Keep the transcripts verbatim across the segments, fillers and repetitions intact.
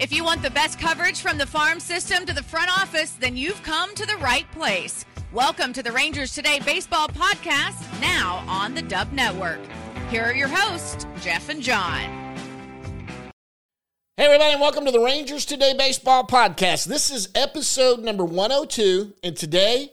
If you want the best coverage from the farm system to the front office, then you've come to the right place. Welcome to the Rangers Today Baseball Podcast, now on the Dub Network. Here are your hosts, Jeff and John. Hey, everybody, and welcome to the Rangers Today Baseball Podcast. This is episode number one oh two, and today,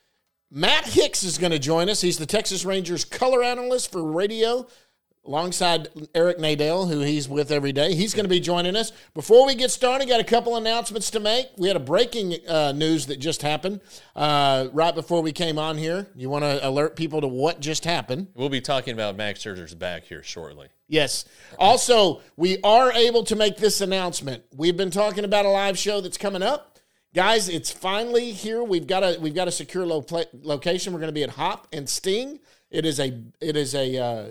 Matt Hicks is going to join us. He's the Texas Rangers color analyst for radio, alongside Eric Nadel, who he's with every day. He's going to be joining us. Before we get started, got a couple announcements to make. We had a breaking uh, news that just happened uh, right before we came on here. You want to alert people to what just happened? We'll be talking about Max Scherzer's back here shortly. Yes. Also, we are able to make this announcement. We've been talking about a live show that's coming up. Guys, it's finally here. We've got a we've got a secure lo- location. We're going to be at Hop and Sting. It is a it is a uh,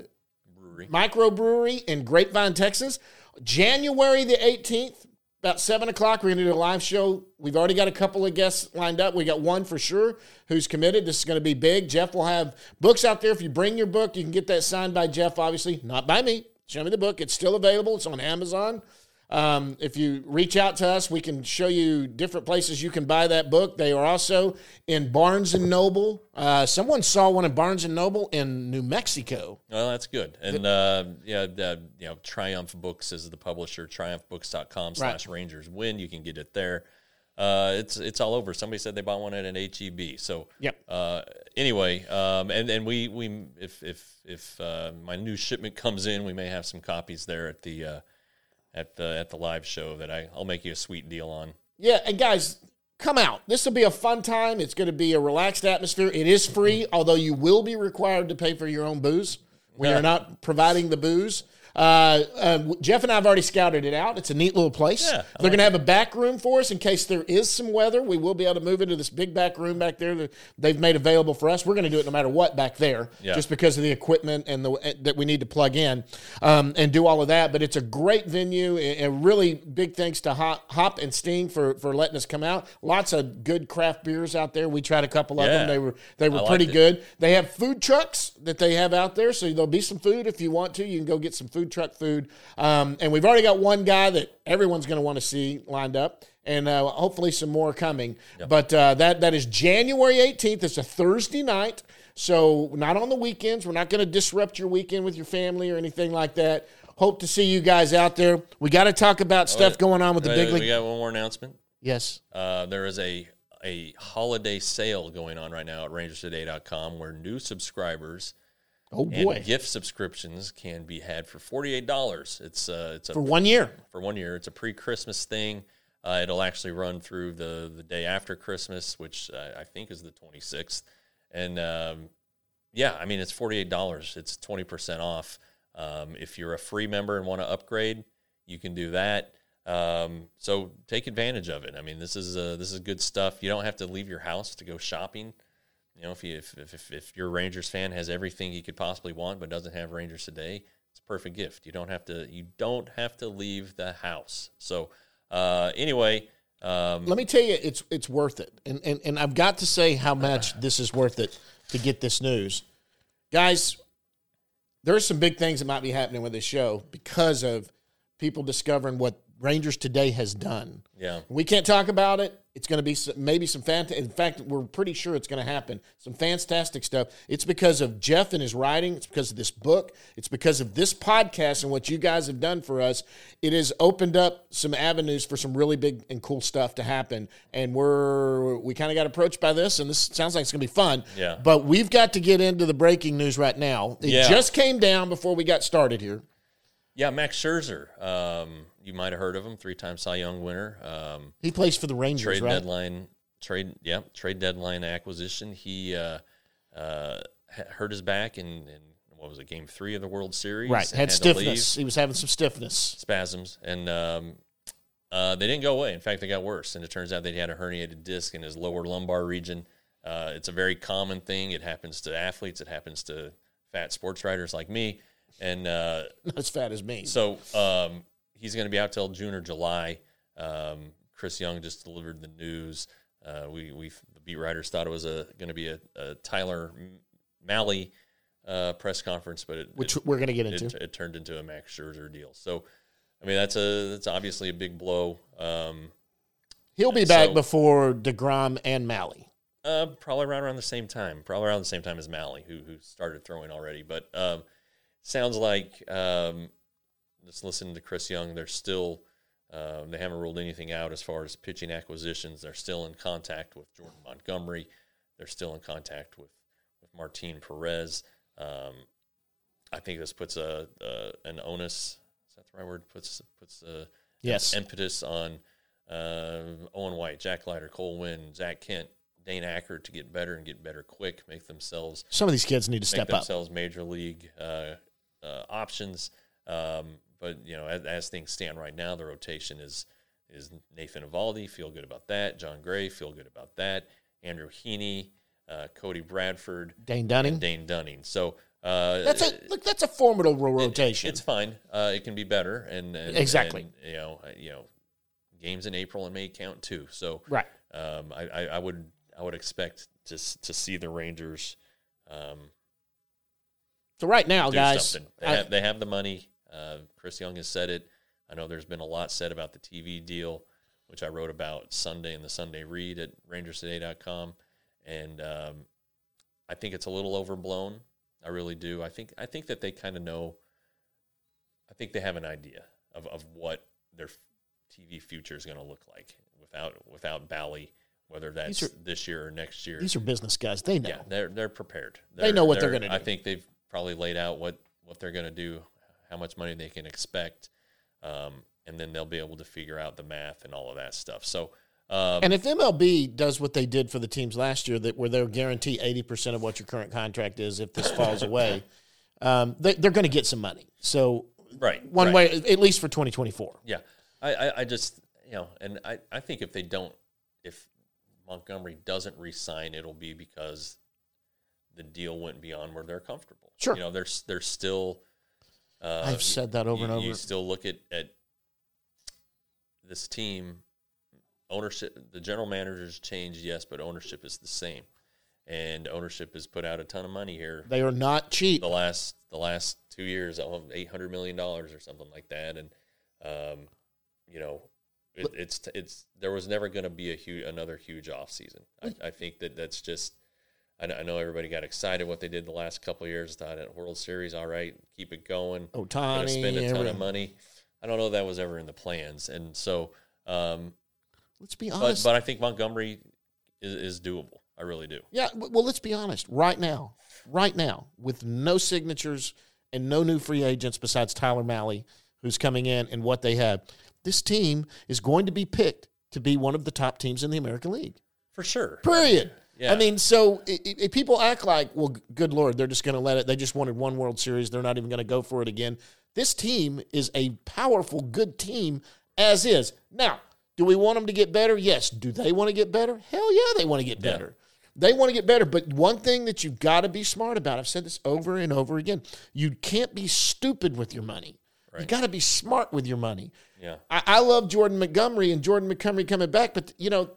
microbrewery in Grapevine, Texas. January the eighteenth, about seven o'clock, we're going to do a live show. We've already got a couple of guests lined up. We got one for sure who's committed. This is going to be big. Jeff will have books out there. If you bring your book, you can get that signed by Jeff, obviously. Not by me. Show me the book. It's still available. It's on Amazon. Um, if you reach out to us, we can show you different places you can buy that book. They are also in Barnes and Noble. Uh, someone saw one in Barnes and Noble in New Mexico. Well, that's good. And uh, yeah, uh, you know, Triumph Books is the publisher. triumph books dot com slash Rangers Win. You can get it there. Uh, it's it's all over. Somebody said they bought one at an H E B. So yep. Uh, anyway, um, and and we we if if if uh, my new shipment comes in, we may have some copies there at the. Uh, At the at the live show that I, I'll make you a sweet deal on. Yeah, and guys, come out. This will be a fun time. It's going to be a relaxed atmosphere. It is free, although you will be required to pay for your own booze. We are not providing the booze. Uh, uh, Jeff and I have already scouted it out. It's a neat little place. Yeah, They're like going to have a back room for us in case there is some weather. We will be able to move into this big back room back there that they've made available for us. We're going to do it no matter what back there, yeah. just because of the equipment and the that we need to plug in um, and do all of that. But it's a great venue, and really big thanks to Hop, Hop and Sting for, for letting us come out. Lots of good craft beers out there. We tried a couple of yeah. them. They were they were I pretty liked good. it. They have food trucks that they have out there, so there'll be some food if you want to. You can go get some food truck food. Um, and we've already got one guy that everyone's going to want to see lined up, and uh, hopefully some more coming. Yep. But uh, that that is January eighteenth. It's a Thursday night, so not on the weekends. We're not going to disrupt your weekend with your family or anything like that. Hope to see you guys out there. We got to talk about stuff oh, going on with the wait, big league. We got one more announcement. Yes. Uh, there is a a holiday sale going on right now at rangers today dot com where new subscribers Oh boy! and gift subscriptions can be had for forty-eight dollars. It's uh, it's a, for one year. For one year, it's a pre-Christmas thing. Uh, it'll actually run through the the day after Christmas, which uh, I think is the twenty-sixth. And um, yeah, I mean it's forty-eight dollars. It's twenty percent off. Um, if you're a free member and want to upgrade, you can do that. Um, so take advantage of it. I mean, this is uh, this is good stuff. You don't have to leave your house to go shopping. You know, if, you, if if if your Rangers fan has everything he could possibly want but doesn't have Rangers Today, it's a perfect gift. You don't have to you don't have to leave the house. So uh, anyway, um, let me tell you, it's it's worth it, and and and I've got to say how much this is worth it to get this news, guys. There are some big things that might be happening with this show because of people discovering what Rangers Today has done. Yeah, we can't talk about it. It's going to be some, maybe some fantastic. In fact, we're pretty sure it's going to happen. Some fantastic stuff. It's because of Jeff and his writing. It's because of this book. It's because of this podcast and what you guys have done for us. It has opened up some avenues for some really big and cool stuff to happen. And we're we kind of got approached by this, and this sounds like it's going to be fun. Yeah. But we've got to get into the breaking news right now. It yeah. just came down before we got started here. Yeah, Max Scherzer. Um, you might have heard of him, three-time Cy Young winner. Um, he plays for the Rangers, trade right? deadline, trade, yeah, trade deadline acquisition. He uh, uh, hurt his back in, in what was it, Game Three of the World Series? Right, had, had stiffness. He was having some stiffness, spasms, and um, uh, they didn't go away. In fact, they got worse. And it turns out that he had a herniated disc in his lower lumbar region. Uh, it's a very common thing. It happens to athletes. It happens to fat sports writers like me. And uh, not as fat as me. So um, he's going to be out till June or July. Um, Chris Young just delivered the news. Uh, we we the beat writers thought it was a going to be a, a Tyler Mahle uh, press conference, but it, which it, we're going to get into. It, it turned into a Max Scherzer deal. So I mean that's a that's obviously a big blow. Um, He'll be back so, before DeGrom and Malley. Uh, probably right around the same time. Probably around the same time as Malley, who who started throwing already. But um, sounds like um, just listening to Chris Young, they're still um, they haven't ruled anything out as far as pitching acquisitions. They're still in contact with Jordan Montgomery. They're still in contact with with Martin Perez. Um, I think this puts a, a an onus. Is that the right word? Puts puts a yes. impetus on uh, Owen White, Jack Leiter, Cole Winn, Zach Kent, Dane Acker to get better and get better quick, make themselves. Some of these kids need to make step up. themselves major league uh, uh, options. Um, but you know, as, as things stand right now, the rotation is is Nathan Eovaldi. Feel good about that. John Gray. Feel good about that. Andrew Heaney, uh, Cody Bradford, Dane Dunning. and Dane Dunning. So uh, That's a look. That's a formidable rotation. It, it's fine. Uh, it can be better, and, and exactly. And, you know, you know, games in April and May count too. So right. Um, I, I, I would I would expect to to see the Rangers. Um, so right now, do guys, something. They I, have they have the money. Uh, Chris Young has said it. I know there's been a lot said about the T V deal, which I wrote about Sunday in the Sunday Read at Rangers Today dot com, and um, I think it's a little overblown. I really do. I think I think that they kind of know. I think they have an idea of, of what their T V future is going to look like without without Bally, whether that's are, this year or next year. These are business guys. They know. Yeah, they're they're prepared. They're, they know what they're, they're going to do. I think they've probably laid out what, what they're going to do, how much money they can expect, um, and then they'll be able to figure out the math and all of that stuff. So. Um, and if M L B does what they did for the teams last year, that where they'll guarantee eighty percent of what your current contract is if this falls away, um, they, they're going to get some money. So right, one right. way, at least for twenty twenty-four. Yeah, I, I, I just, you know, and I, I think if they don't, if Montgomery doesn't re-sign, it'll be because the deal went beyond where they're comfortable. Sure. You know, there's there's still. Uh, I've said that over you, and over. You still look at, at this team. Ownership, the general manager's changed, yes, but ownership is the same, and ownership has put out a ton of money here. They are not cheap. The last the last two years, eight hundred million dollars or something like that, and um, you know, it, it's it's there was never going to be a huge another huge off season. I, I think that that's just. I, I know everybody got excited what they did the last couple of years. Thought at World Series, all right, keep it going. Ohtani, going to spend a ton everything. of money. I don't know if that was ever in the plans, and so. Um, Let's be honest. But, but I think Montgomery is, is doable. I really do. Yeah, well, let's be honest. Right now, right now, with no signatures and no new free agents besides Tyler Malley, who's coming in, and what they have, this team is going to be picked to be one of the top teams in the American League. For sure. Period. Yeah. I mean, so if people act like, well, good Lord, they're just going to let it. They just wanted one World Series. They're not even going to go for it again. This team is a powerful, good team as is. Now, do we want them to get better? Yes. Do they want to get better? Hell yeah, they want to get better. Yeah. They want to get better. But one thing that you've got to be smart about, I've said this over and over again, you can't be stupid with your money. Right. You got to be smart with your money. Yeah. I, I love Jordan Montgomery and Jordan Montgomery coming back, but, you know,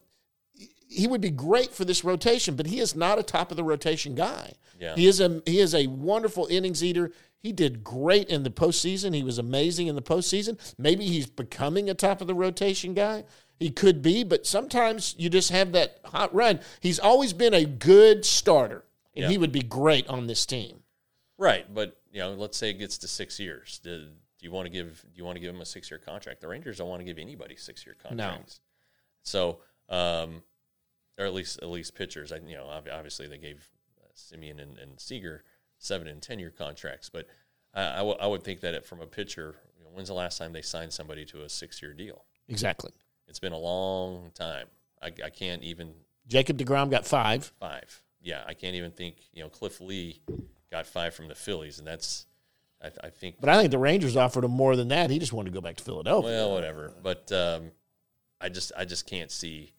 he would be great for this rotation, but he is not a top-of-the-rotation guy. Yeah. He is a he is a wonderful innings eater. He did great in the postseason. He was amazing in the postseason. Maybe he's becoming a top-of-the-rotation guy. He could be, but sometimes you just have that hot run. He's always been a good starter, and yeah. he would be great on this team. Right, but you know, let's say it gets to six years. Do, do you want to give? Do you want to give him a six-year contract? The Rangers don't want to give anybody six-year contracts. No. So, um, or at least at least pitchers. I, you know, obviously they gave uh, Simeon and, and Seager seven and ten-year contracts, but I, I, w- I would think that it, from a pitcher, you know, when's the last time they signed somebody to a six-year deal? Exactly. It's been a long time. I, I can't even. Jacob deGrom got five. Five. Yeah, I can't even think. You know, Cliff Lee got five from the Phillies, and that's, I, I think. But I think the Rangers offered him more than that. He just wanted to go back to Philadelphia. Well, whatever. But um, I just, I just can't see.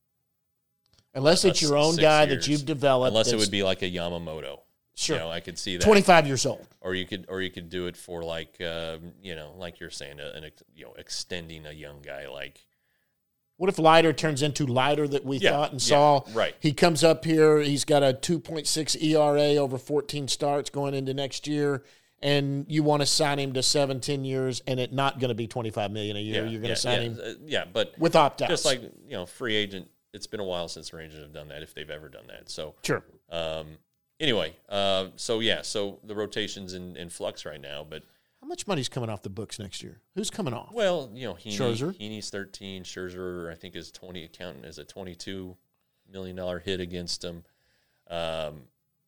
Unless it's your own guy years, that you've developed. Unless it would be like a Yamamoto. Sure. You know, I could see that. twenty-five years old. Or you could, or you could do it for like, um, you know, like you're saying, an, you know, extending a young guy like. What if Leiter turns into Leiter that we yeah, thought and yeah, saw? Right. He comes up here. He's got a two point six E R A over fourteen starts going into next year, and you want to sign him to seven, ten years, and it not going to be twenty-five million dollars a year. Yeah, You're going to yeah, sign yeah, him uh, yeah, but with opt-outs. Just like, you know, free agent, it's been a while since the Rangers have done that, if they've ever done that. So Sure. Um, anyway, uh, so yeah, so the rotation's in, in flux right now, but How much money's coming off the books next year? Who's coming off? well, you know, Heaney, Scherzer? Heaney's thirteen, Scherzer I think is twenty, accountant is a twenty-two million dollar hit against him. Um,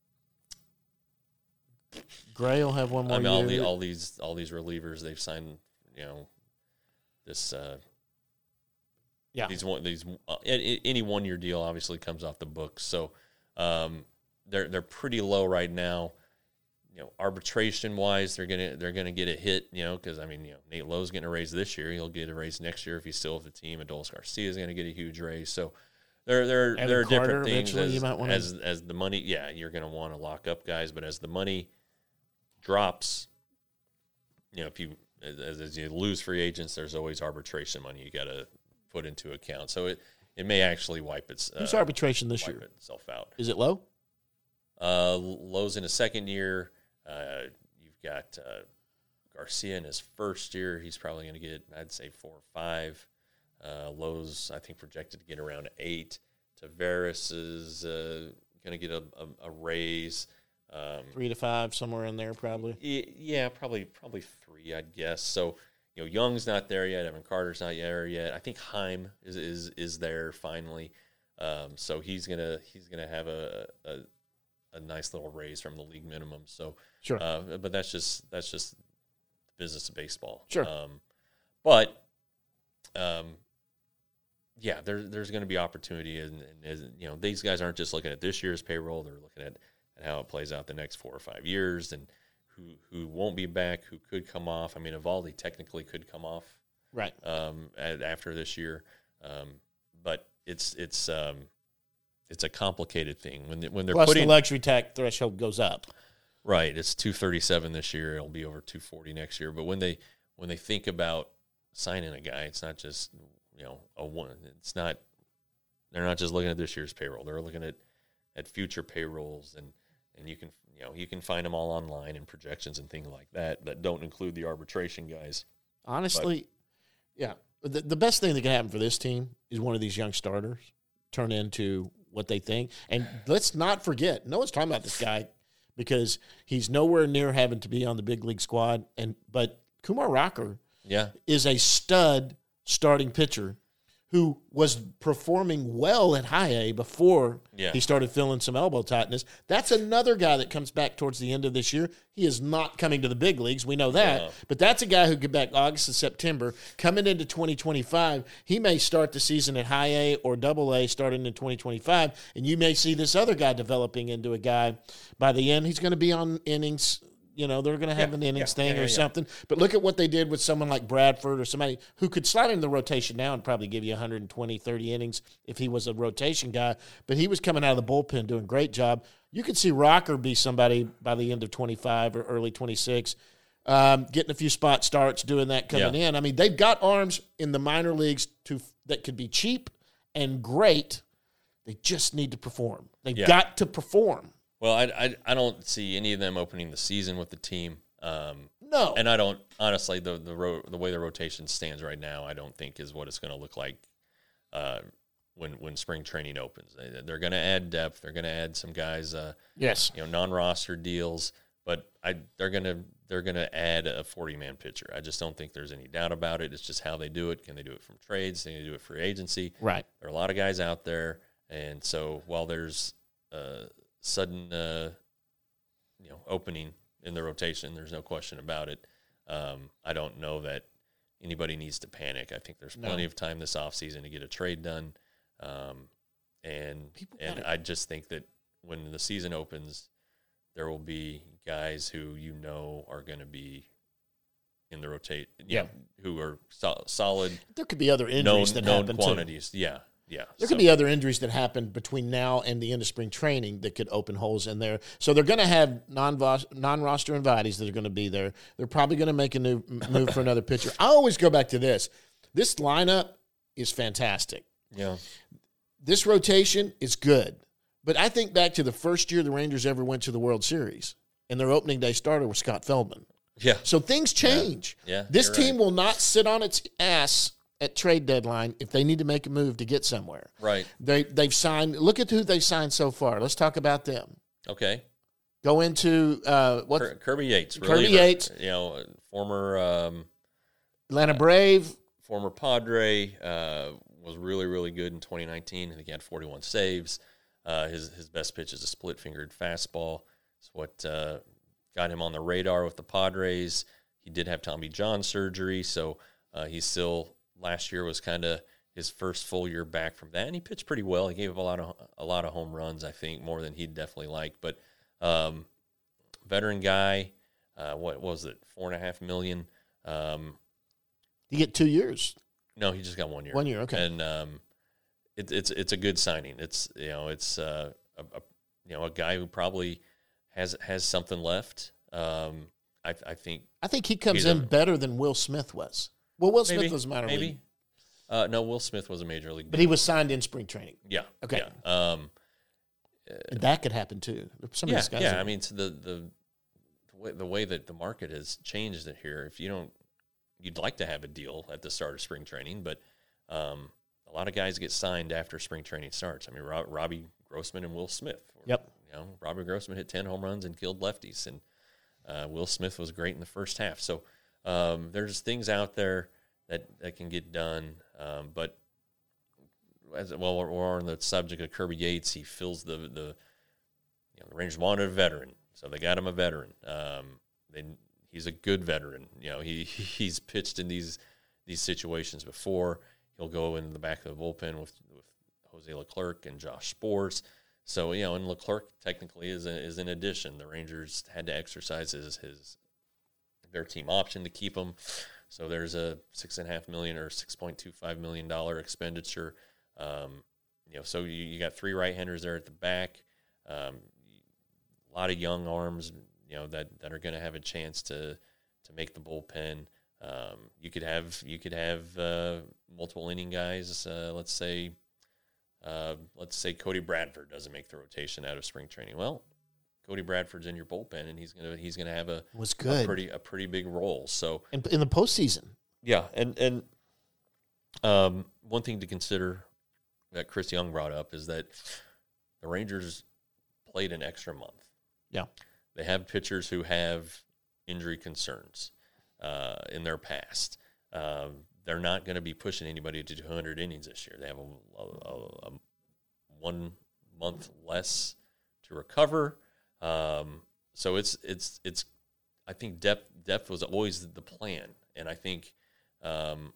Gray will have one more I mean, all, year. the, all these all these relievers they've signed, you know, this uh, yeah. these one these uh, any one year deal obviously comes off the books, so um, they're they're pretty low right now. You know, arbitration wise, they're gonna they're gonna get a hit. You know, because I mean, you know, Nate Lowe's getting a raise this year. He'll get a raise next year if he's still with the team. Adolis Garcia is gonna get a huge raise. So there there Evan there are Carter, different things eventually as, you might wanna- as as the money. Yeah, you're gonna want to lock up guys, but as the money drops, you know, if you as, as you lose free agents, there's always arbitration money you got to put into account. So it, it may actually wipe its uh, Who's arbitration this wipe year? itself out. Is it low? Uh, Lowe's in his second year. Uh, you've got uh, Garcia in his first year. He's probably going to get, I'd say, four or five. Uh, Lowe's, I think, projected to get around eight. Tavares is uh, going to get a, a, a raise. Um, Three to five, somewhere in there, probably. Yeah, probably probably three, I'd guess. So, you know, Young's not there yet. Evan Carter's not there yet. I think Heim is is is there finally. Um, so he's gonna he's gonna have a, a a nice little raise from the league minimum. So, Sure. uh, but that's just that's just the business of baseball. Sure. Um, but, um, yeah, there, there's going to be opportunity, and, and you know, these guys aren't just looking at this year's payroll; they're looking at and how it plays out the next four or five years, and who who won't be back, who could come off. I mean, Evaldi technically could come off Right. um, at, after this year, um, but it's it's um, it's a complicated thing when they, when they're Plus putting the luxury tax threshold goes up. right. It's two thirty seven this year. It'll be over two forty next year. But when they when they think about signing a guy, it's not just you know a one. It's not they're not just looking at this year's payroll. They're looking at at future payrolls and. And you can, you know, you can find them all online and projections and things like that that don't include the arbitration guys. Honestly, but, yeah. The, the best thing that can happen for this team is one of these young starters turn into what they think. And let's not forget, no one's talking about this guy because he's nowhere near having to be on the big league squad. And but Kumar Rocker yeah. is a stud starting pitcher who was performing well at high A before Yeah. he started feeling some elbow tightness. That's another guy that comes back towards the end of this year. He is not coming to the big leagues. We know that. Yeah. But that's a guy who get back August and September. Coming into twenty twenty-five, he may start the season at high A or double A starting in twenty twenty-five, and you may see this other guy developing into a guy. By the end, he's going to be on innings. You know, they're going to have Yeah, an innings yeah, thing yeah, or yeah, yeah. something. But look at what they did with someone like Bradford or somebody who could slide into the rotation now and probably give you one hundred twenty, thirty innings if he was a rotation guy. But he was coming out of the bullpen doing a great job. You could see Rocker be somebody by the end of twenty-five or early twenty-six, um, getting a few spot starts, doing that coming Yeah. in. I mean, they've got arms in the minor leagues to that could be cheap and great. They just need to perform. They've Yeah. got to perform. Well, I, I I don't see any of them opening the season with the team. Um, No. and I don't honestly the the ro- the way the rotation stands right now, I don't think is what it's going to look like uh, when when spring training opens. They, they're going to add depth. They're going to add some guys, uh, Yes. you know, non-roster deals. But I they're going to they're going to add a forty-man pitcher. I just don't think there's any doubt about it. It's just how they do it. Can they do it from trades? Can they do it for agency? Right. There are a lot of guys out there, and so while there's uh, sudden uh, you know opening in the rotation, there's no question about it. Um, I don't know that anybody needs to panic. I think there's plenty No. of time this offseason to get a trade done. Um, and People and gotta- I just think that when the season opens, there will be guys who you know are going to be in the rotate, you Yeah. know, who are so, solid, There could be other known, injuries that known happen too. quantities. Yeah, yeah. There So- could be other injuries that happen between now and the end of spring training that could open holes in there. So they're going to have non non-roster invitees that are going to be there. They're probably going to make a new move for another pitcher. I always go back to this. This lineup is fantastic. yeah. This rotation is good. But I think back to the first year the Rangers ever went to the World Series. and their opening day starter was Scott Feldman. Yeah. So things change. Yeah, yeah, this you're team right. will not sit on its ass at trade deadline if they need to make a move to get somewhere. Right. They, they've signed – look at who they've signed so far. Let's talk about them. Okay. Go into uh, – what? Kir- Kirby Yates. Kirby reliever, Yates. You know, former um, Atlanta Brave. former Padre, uh, was really, really good in twenty nineteen. I think he had forty-one saves. Uh, his his best pitch is a split-fingered fastball. It's what uh, got him on the radar with the Padres. He did have Tommy John surgery, so uh, he's still – last year was kind of his first full year back from that, and he pitched pretty well. He gave up a lot of a lot of home runs, I think, more than he'd definitely like. But um, veteran guy, uh, what was it, four and a half million? Um, You get two years. no, he just got one year. One year, okay. And um, it, it's it's a good signing. It's you know it's uh, a, a you know a guy who probably has has something left. Um, I, I think I think he comes He's in a- better than Will Smith was. Well, Will Smith maybe was minor maybe. league, Uh, no, Will Smith was a major league, but he was signed in spring training. yeah. Okay. Yeah. Um, And that could happen too. Some of yeah, these guys yeah. are- I mean, so the the the way, the way that the market has changed it here. If you don't, you'd like to have a deal at the start of spring training, but um, a lot of guys get signed after spring training starts. I mean, Rob, Robbie Grossman and Will Smith. Were, Yep. You know, Robbie Grossman hit ten home runs and killed lefties, and uh, Will Smith was great in the first half. So um, there's things out there that that can get done, um, but. As well, we're, we're on the subject of Kirby Yates. He fills the the you know, the Rangers wanted a veteran, so they got him a veteran. Um, they he's a good veteran. You know, he he's pitched in these these situations before. He'll go in the back of the bullpen with, with Jose Leclerc and Josh Sports. So you know, and Leclerc technically is a, is an addition. The Rangers had to exercise his his their team option to keep him. So there's a six and a half million or six point two five million dollar expenditure. Um, you know, so you, you got three right-handers there at the back, um, a lot of young arms, you know, that, that are going to have a chance to to make the bullpen. Um, you could have you could have uh, multiple inning guys. Uh, let's say, uh, let's say Cody Bradford doesn't make the rotation out of spring training. Well, Cody Bradford's in your bullpen, and he's gonna he's gonna have a was good a pretty a pretty big role. So in, in the postseason. yeah, and and um, one thing to consider that Chris Young brought up is that the Rangers played an extra month. Yeah. They have pitchers who have injury concerns uh, in their past. Um, they're not going to be pushing anybody to two hundred innings this year. They have a, a, a, a one month less to recover. Um, so it's it's it's. I think depth depth was always the plan, and I think, um,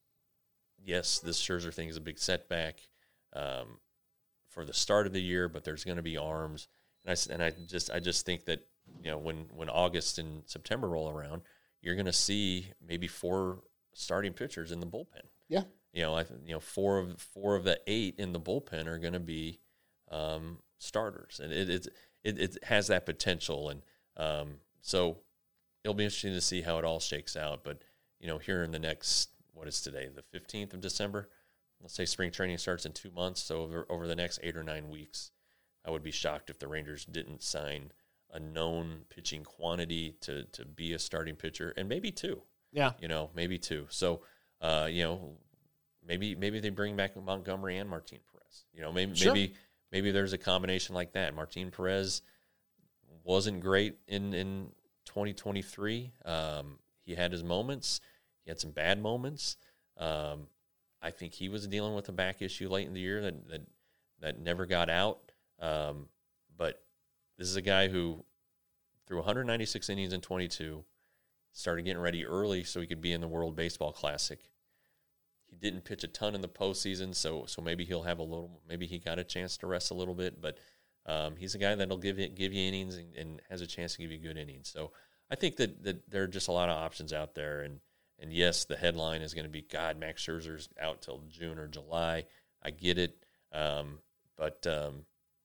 yes, this Scherzer thing is a big setback um, for the start of the year, but there's going to be arms, and I and I just I just think that you know when when August and September roll around, you're going to see maybe four starting pitchers in the bullpen. Yeah. You know, I you know four of four of the eight in the bullpen are going to be um, starters, and it, it it it has that potential, and um, so it'll be interesting to see how it all shakes out. But you know, here in the next what is today, the fifteenth of December. Let's say spring training starts in two months, so over over the next eight or nine weeks, I would be shocked if the Rangers didn't sign a known pitching quantity to to be a starting pitcher, and maybe two. Yeah. You know, maybe two. So, uh, you know, maybe maybe they bring back Montgomery and Martin Perez. You know, maybe Sure. maybe maybe there's a combination like that. Martin Perez wasn't great in in twenty twenty-three. Um, he had his moments. He had some bad moments. Um, I think he was dealing with a back issue late in the year that that, that never got out. Um, but this is a guy who threw one hundred ninety-six innings in twenty-two, started getting ready early so he could be in the World Baseball Classic. He didn't pitch a ton in the postseason, so so maybe he'll have a little. Maybe he got a chance to rest a little bit, but um, he's a guy that'll give you give you innings and, and has a chance to give you good innings. So I think that that there are just a lot of options out there, and. And yes, the headline is going to be, God, Max Scherzer's out till June or July. I get it. Um, but um,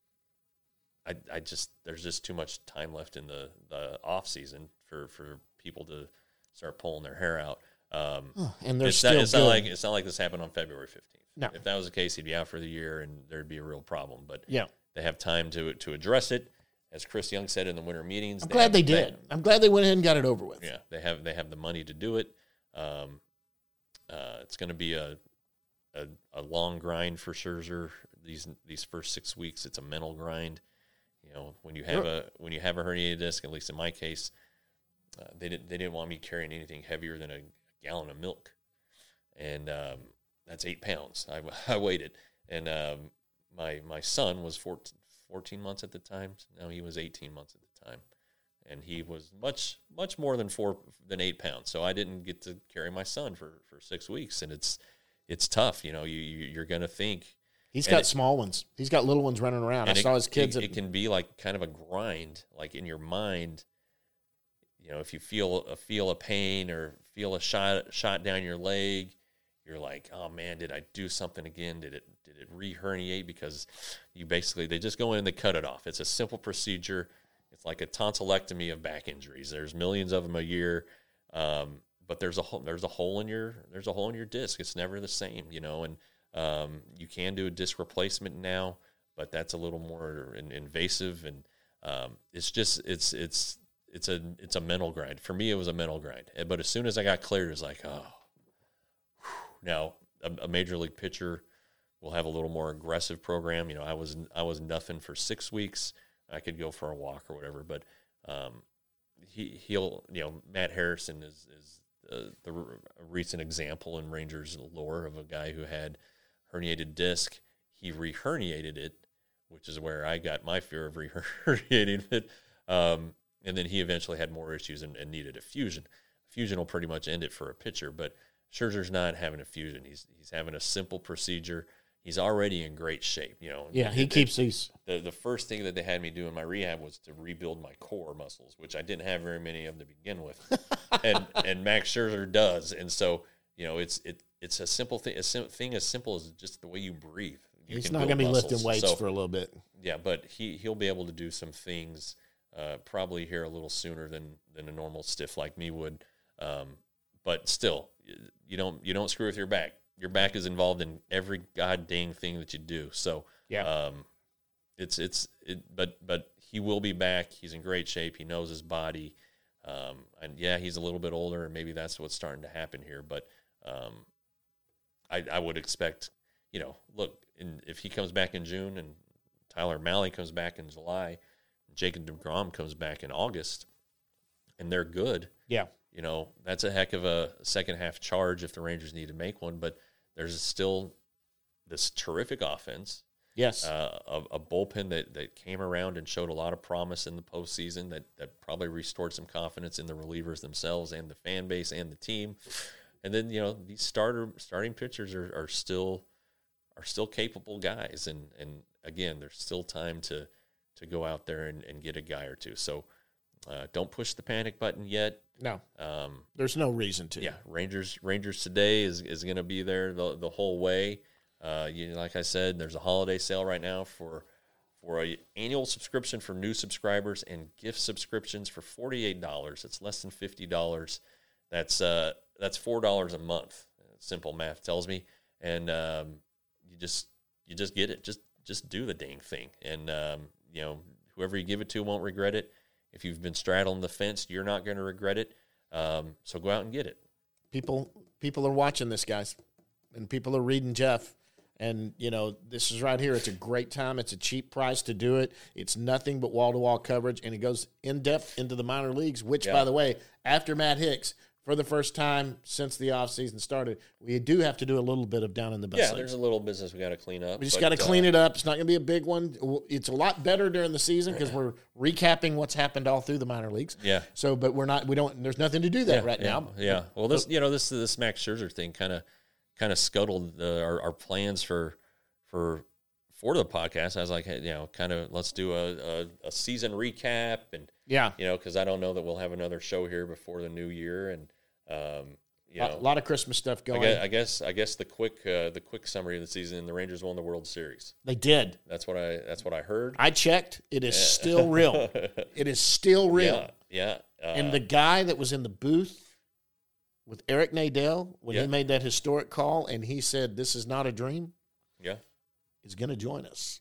I, I just there's just too much time left in the, the off season for, for people to start pulling their hair out. Um, Oh, and they're it's still not, it's good. not like it's not like this happened on February fifteenth. No. If that was the case, he'd be out for the year and there'd be a real problem. But Yeah. they have time to to address it. as Chris Young said in the winter meetings, I'm they glad have, they did. They, I'm glad they went ahead and got it over with. Yeah, they have they have the money to do it. Um, uh, it's going to be a, a a long grind for Scherzer these these first six weeks. It's a mental grind. You know, when you have Sure. a when you have a herniated disc, at least in my case, uh, they didn't they didn't want me carrying anything heavier than a gallon of milk, and um, that's eight pounds. I, I weighed it, and um, my my son was fourteen, fourteen months at the time. No, he was eighteen months at the time, and he was much much more than four than eight pounds. So I didn't get to carry my son for, for six weeks, and it's it's tough. You know, you, you you're gonna think. He's And got it- small ones. He's got little ones running around. I and saw it, his kids. It, at, it can be like kind of a grind, like in your mind. You know, if you feel a feel a pain or feel a shot shot down your leg, you're like, oh man, did I do something again? Did it did it re-herniate? Because you basically they just go in and they cut it off. It's a simple procedure. It's like a tonsillectomy of back injuries. There's millions of them a year, um, but there's a hole, there's a hole in your there's a hole in your disc. It's never the same, you know. And um, you can do a disc replacement now, but that's a little more in, invasive, and um, it's just it's it's it's a it's a mental grind. For me, it was a mental grind. But as soon as I got cleared, it was like, oh. Now, a, a major league pitcher will have a little more aggressive program. You know, I was I was nothing for six weeks. I could go for a walk or whatever, but um, he he'll you know Matt Harrison is is uh, the r- a recent example in Rangers lore of a guy who had herniated disc. He re-herniated it, which is where I got my fear of re-herniating it. Um, and then he eventually had more issues and, and needed a fusion. Fusion will pretty much end it for a pitcher, but Scherzer's not having a fusion. He's he's having a simple procedure. He's already in great shape. You know. yeah, he The- keeps these. The the first thing that they had me do in my rehab was to rebuild my core muscles, which I didn't have very many of to begin with, and and Max Scherzer does. And so you know, it's it it's a simple thing. A sim- thing as simple as just the way you breathe. You He's can not build going to be muscles. lifting weights So, for a little bit. yeah, but he he'll be able to do some things uh, probably here a little sooner than than a normal stiff like me would. Um, but still, you don't you don't screw with your back. Your back is involved in every god dang thing that you do. So Yeah. um, it's it's it. But but he will be back. He's in great shape. He knows his body. Um, and yeah, he's a little bit older, and maybe that's what's starting to happen here. But um, I I would expect, you know, look, in, if he comes back in June and Tyler Mahle comes back in July, Jacob deGrom comes back in August, and they're good. Yeah. You know, that's a heck of a second half charge if the Rangers need to make one, but there's still this terrific offense, Yes. uh, a, a bullpen that, that came around and showed a lot of promise in the postseason that, that probably restored some confidence in the relievers themselves and the fan base and the team. And then, you know, these starter starting pitchers are, are still are still capable guys. And, and again, there's still time to to go out there and, and get a guy or two. So uh, don't push the panic button yet. no, Um, there's no reason to. yeah, Rangers Rangers today is, is going to be there the the whole way. Uh, you like I said, there's a holiday sale right now for for a annual subscription for new subscribers and gift subscriptions for forty-eight dollars. It's less than fifty dollars. That's uh that's four dollars a month. Simple math tells me, and um, you just you just get it. Just just do the dang thing, and um, you know whoever you give it to won't regret it. If you've been straddling the fence, you're not going to regret it. Um, so go out and get it. People people are watching this, guys, and people are reading Jeff. And, you know, this is right here. It's a great time. It's a cheap price to do it. It's nothing but wall-to-wall coverage, and it goes in-depth into the minor leagues, which, Yeah. by the way, after Matt Hicks, for the first time since the offseason started, we do have to do a little bit of down in the best Yeah, leagues. there's a little business we got to clean up. We just but, got to clean uh, it up. It's not going to be a big one. It's a lot better during the season because we're recapping what's happened all through the minor leagues. Yeah. So, but we're not. We don't. There's nothing to do that yeah, right yeah, now. Yeah. Well, this you know this this Max Scherzer thing kind of kind of scuttled uh, our, our plans for for for the podcast. I was like, hey, you know, kind of let's do a, a, a season recap, and Yeah. you know, because I don't know that we'll have another show here before the new year, and um, you A know, lot of Christmas stuff I going. guess, I guess I guess the quick uh, the quick summary of the season: the Rangers won the World Series. They did. That's what I that's what I heard. I checked. It is still real. It is still real. Yeah, yeah. Uh, And the guy that was in the booth with Eric Nadel when Yeah. he made that historic call and he said, "This is not a dream," yeah. is going to join us.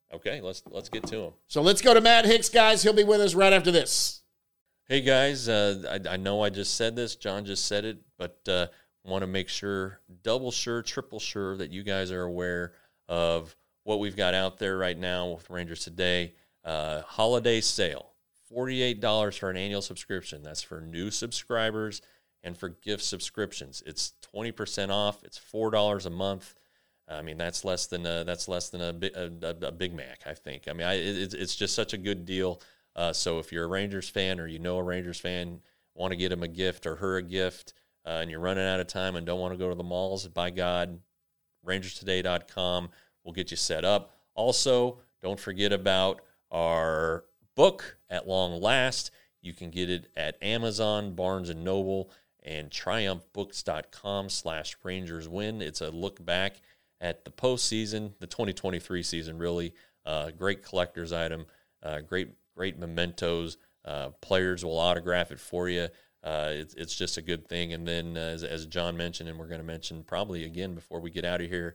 Okay, let's let's get to him. So let's go to Matt Hicks, guys. He'll be with us right after this. Hey, guys. Uh, I, I know I just said this. John just said it, but uh, want to make sure, double sure, triple sure that you guys are aware of what we've got out there right now with Rangers Today. Uh, holiday sale, forty-eight dollars for an annual subscription. That's for new subscribers and for gift subscriptions. It's twenty percent off. It's four dollars a month. I mean, that's less than a, that's less than a, a, a Big Mac, I think. I mean, I, it, it's just such a good deal. Uh, so if you're a Rangers fan or you know a Rangers fan, want to get him a gift or her a gift, uh, and you're running out of time and don't want to go to the malls, by God, rangers today dot com will get you set up. Also, don't forget about our book, At Long Last. You can get it at Amazon, Barnes and Noble, and triumph books dot com slash Rangers Win. It's a look back at the postseason, the twenty twenty-three season, really. Uh, great collector's item, uh, great great mementos. Uh, players will autograph it for you. Uh, it's, it's just a good thing. And then, uh, as, as John mentioned, and we're going to mention probably again before we get out of here,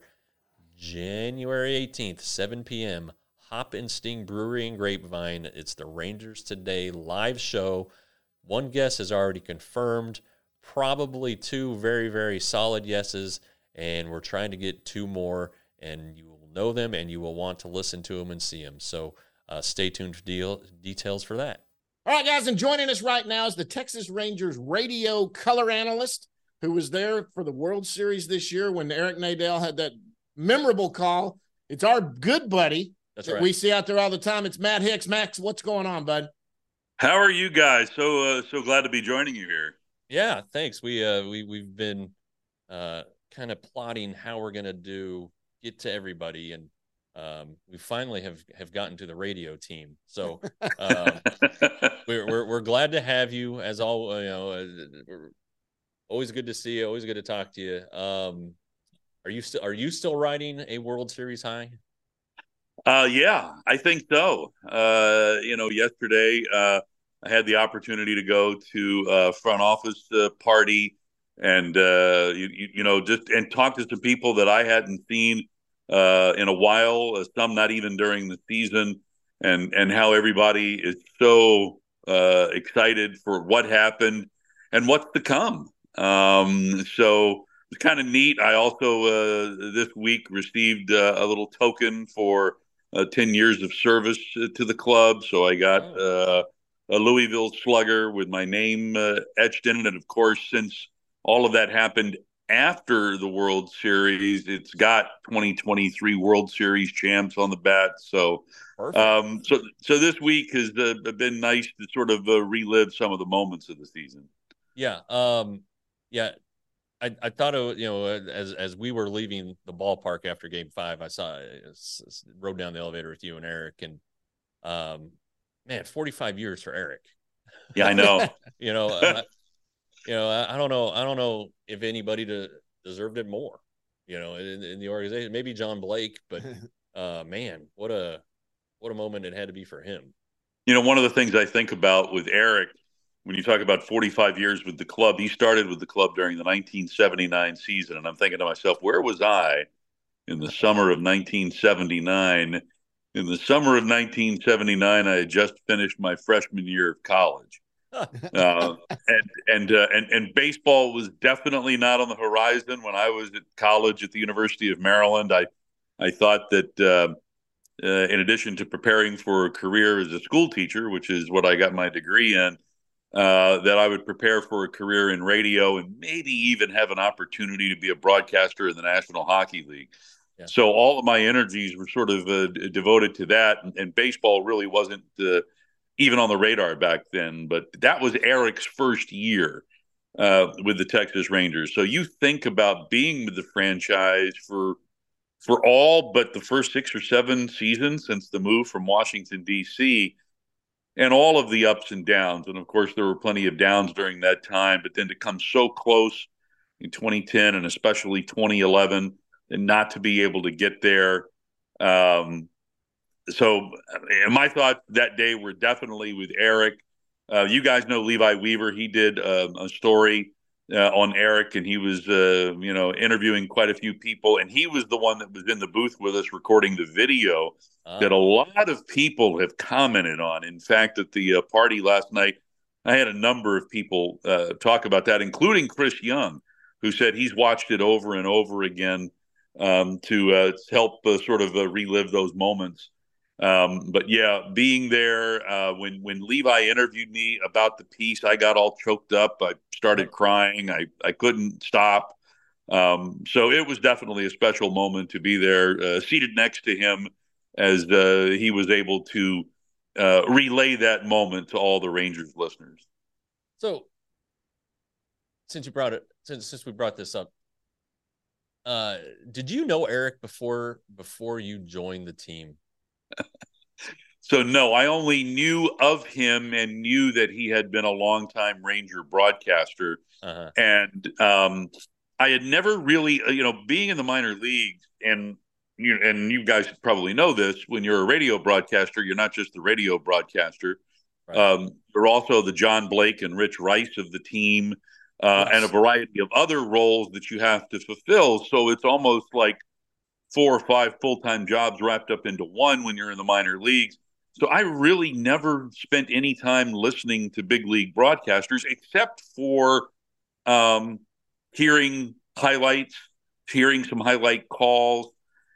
January eighteenth, seven p.m., Hop and Sting Brewery and Grapevine. It's the Rangers Today live show. One guest is already confirmed, probably two very, very solid yeses, and we're trying to get two more, and you will know them, and you will want to listen to them and see them. So uh, stay tuned for deal, details for that. All right, guys, and joining us right now is the Texas Rangers radio color analyst who was there for the World Series this year when Eric Nadel had that memorable call. It's our good buddy That's that right. we see out there all the time. It's Matt Hicks. Max, what's going on, bud? How are you guys? So uh, so glad to be joining you here. Yeah, thanks. We uh we we've been uh kind of plotting how we're gonna do get to everybody, and um we finally have have gotten to the radio team. So um, we're, we're we're glad to have you as all you know. Uh, we're always good to see you. Always good to talk to you. Um, are you still are you still riding a World Series high? Uh, yeah, I think so. Uh, you know, yesterday uh, I had the opportunity to go to a front office uh, party and, uh, you, you, you know, just and talk to some people that I hadn't seen uh, in a while, uh, some not even during the season, and, and how everybody is so uh, excited for what happened and what's to come. Um, so it's kind of neat. I also uh, this week received uh, a little token for Uh, ten years of service uh, to the club. So I got uh, a Louisville Slugger with my name uh, etched in it. And of course, since all of that happened after the World Series, it's got twenty twenty-three World Series champs on the bat. So, um, so, so this week has uh, been nice to sort of uh, relive some of the moments of the season. Yeah. Um, yeah. I, I thought, it, you know, as as we were leaving the ballpark after Game Five, I saw, I rode down the elevator with you and Eric, and um, man, forty-five years for Eric. Yeah, I know. you know, uh, you know, I, I don't know, I don't know if anybody to, deserved it more. You know, in, in the organization, maybe John Blake, but uh, man, what a what a moment it had to be for him. You know, one of the things I think about with Eric, when you talk about forty-five years with the club, he started with the club during the nineteen seventy-nine season. And I'm thinking to myself, where was I in the summer of nineteen seventy-nine? In the summer of nineteen seventy-nine, I had just finished my freshman year of college. uh, and and, uh, and and baseball was definitely not on the horizon when I was at college at the University of Maryland. I, I thought that uh, uh, in addition to preparing for a career as a school teacher, which is what I got my degree in, Uh, that I would prepare for a career in radio and maybe even have an opportunity to be a broadcaster in the National Hockey League. Yeah. So all of my energies were sort of uh, devoted to that, and, and baseball really wasn't uh, even on the radar back then. But that was Eric's first year uh, with the Texas Rangers. So you think about being with the franchise for for all but the first six or seven seasons since the move from Washington, D C, and all of the ups and downs. And of course, there were plenty of downs during that time, but then to come so close in twenty ten and especially twenty eleven and not to be able to get there. Um, so my thoughts that day were definitely with Eric. Uh, you guys know Levi Weaver. He did uh, a story uh, on Eric, and he was, uh, you know, interviewing quite a few people, and he was the one that was in the booth with us recording the video Uh, that a lot of people have commented on. In fact, at the uh, party last night, I had a number of people uh, talk about that, including Chris Young, who said he's watched it over and over again um, to uh, help uh, sort of uh, relive those moments. Um, but yeah, being there uh, when when Levi interviewed me about the piece, I got all choked up. I started crying. I I couldn't stop. Um, so it was definitely a special moment to be there, uh, seated next to him, as uh, he was able to uh, relay that moment to all the Rangers listeners. So, since you brought it, since since we brought this up, uh, did you know Eric before before you joined the team? So no, I only knew of him and knew that he had been a longtime Ranger broadcaster, Uh-huh. and um, I had never really, you know, being in the minor leagues, and you and you guys probably know this. When you're a radio broadcaster, you're not just the radio broadcaster. Right. Um, you're also the John Blake and Rich Rice of the team, uh, Yes. and a variety of other roles that you have to fulfill. So it's almost like four or five full-time jobs wrapped up into one when you're in the minor leagues. So I really never spent any time listening to big league broadcasters except for um, hearing highlights, hearing some highlight calls.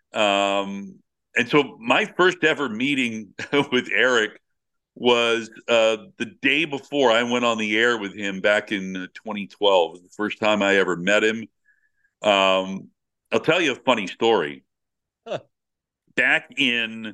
Um, and so my first ever meeting with Eric was uh, the day before I went on the air with him back in twenty twelve. It was the first time I ever met him. Um, I'll tell you a funny story. Huh. Back in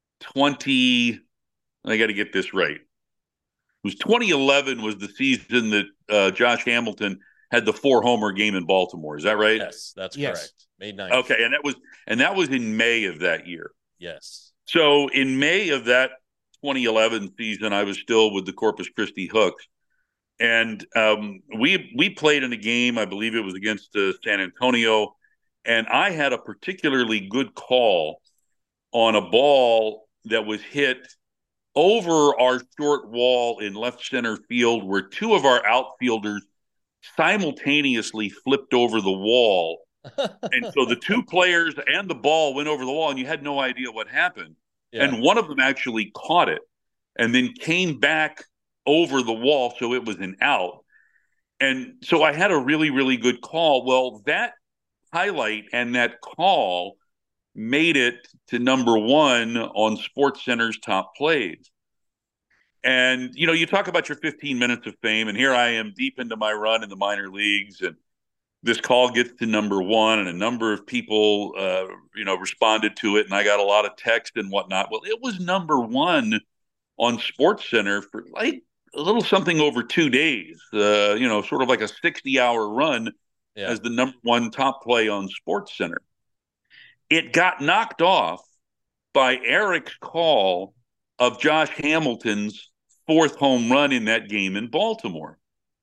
twenty, I got to get this right. It was twenty eleven was the season that uh, Josh Hamilton had the four homer game in Baltimore. Is that right? Yes, that's Yes. correct. May ninth. Okay, and that was and that was in May of that year. Yes. So in May of that twenty eleven season, I was still with the Corpus Christi Hooks, and um, we we played in a game. I believe it was against uh, San Antonio, and I had a particularly good call on a ball that was hit over our short wall in left center field, where two of our outfielders simultaneously flipped over the wall. And so the two players and the ball went over the wall, and you had no idea what happened. Yeah. And one of them actually caught it and then came back over the wall, so it was an out. And so I had a really, really good call. Well, that highlight and that call made it to number one on SportsCenter's top plays. And, you know, you talk about your fifteen minutes of fame, and here I am deep into my run in the minor leagues, and this call gets to number one, and a number of people, uh, you know, responded to it, and I got a lot of text and whatnot. Well, it was number one on SportsCenter for like a little something over two days, uh, you know, sort of like a sixty-hour run Yeah. as the number one top play on SportsCenter. It got knocked off by Eric's call of Josh Hamilton's fourth home run in that game in Baltimore.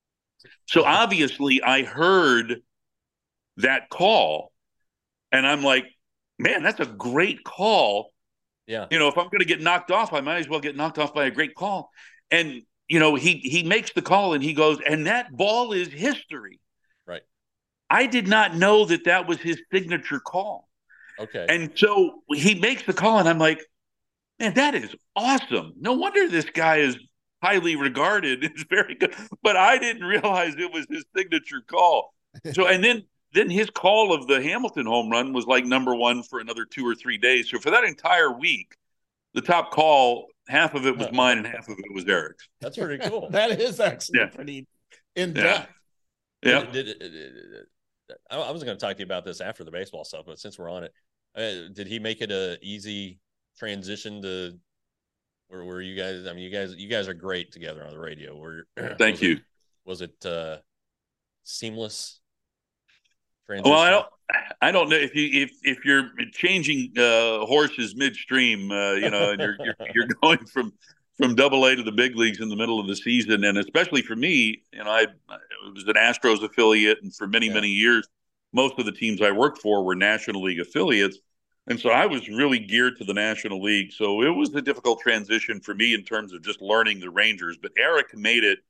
So obviously I heard that call and I'm like, man, that's a great call. Yeah. You know, if I'm going to get knocked off, I might as well get knocked off by a great call. And, you know, he, he makes the call and he goes, and that ball is history. Right. I did not know that that was his signature call. Okay. And so he makes the call, and I'm like, man, that is awesome. No wonder this guy is highly regarded. It's very good. But I didn't realize it was his signature call. So, and then then his call of the Hamilton home run was like number one for another two or three days. So for that entire week, the top call, half of it was mine and half of it was Eric's. That's pretty cool. That is actually Yeah. pretty in Yeah. depth. Yeah. Did, did, did, did, I I was going to talk to you about this after the baseball stuff, but since we're on it, uh, did he make it a easy transition to where, where you guys? I mean, you guys, you guys are great together on the radio. Where Thank was you. It, was it uh, seamless transition? Well, I don't. I don't know if you if if you're changing uh, horses midstream, uh, you know, and you're, you're you're going from from Double A to the big leagues in the middle of the season, and especially for me, you know, I, I was an Astros affiliate, and for many Yeah. many years, most of the teams I worked for were National League affiliates, and so I was really geared to the National League. So it was a difficult transition for me in terms of just learning the Rangers. But Eric made it